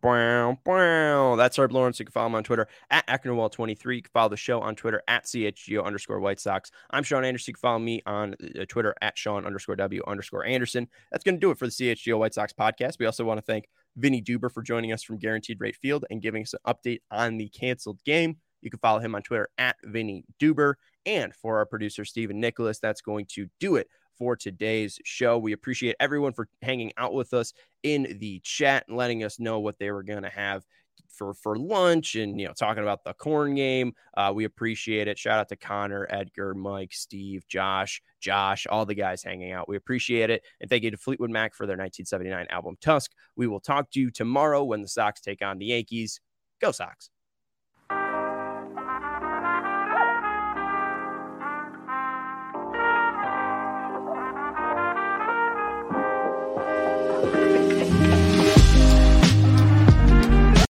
Speaker 1: Herb Lawrence. You can follow him on Twitter at AcknerWall23. You can follow the show on Twitter at CHGO_White Sox. I'm Sean Anderson. You can follow me on Twitter at Sean_W_Anderson. That's going to do it for the CHGO White Sox podcast. We also want to thank Vinny Duber for joining us from Guaranteed Rate Field and giving us an update on the canceled game. You can follow him on Twitter at Vinny Duber. And for our producer, Stephen Nicholas, that's going to do it for today's show. We appreciate everyone for hanging out with us in the chat and letting us know what they were going to have for lunch and, talking about the corn game. We appreciate it. Shout out to Connor, Edgar, Mike, Steve, Josh, all the guys hanging out. We appreciate it. And thank you to Fleetwood Mac for their 1979 album Tusk. We will talk to you tomorrow when the Sox take on the Yankees. Go Sox.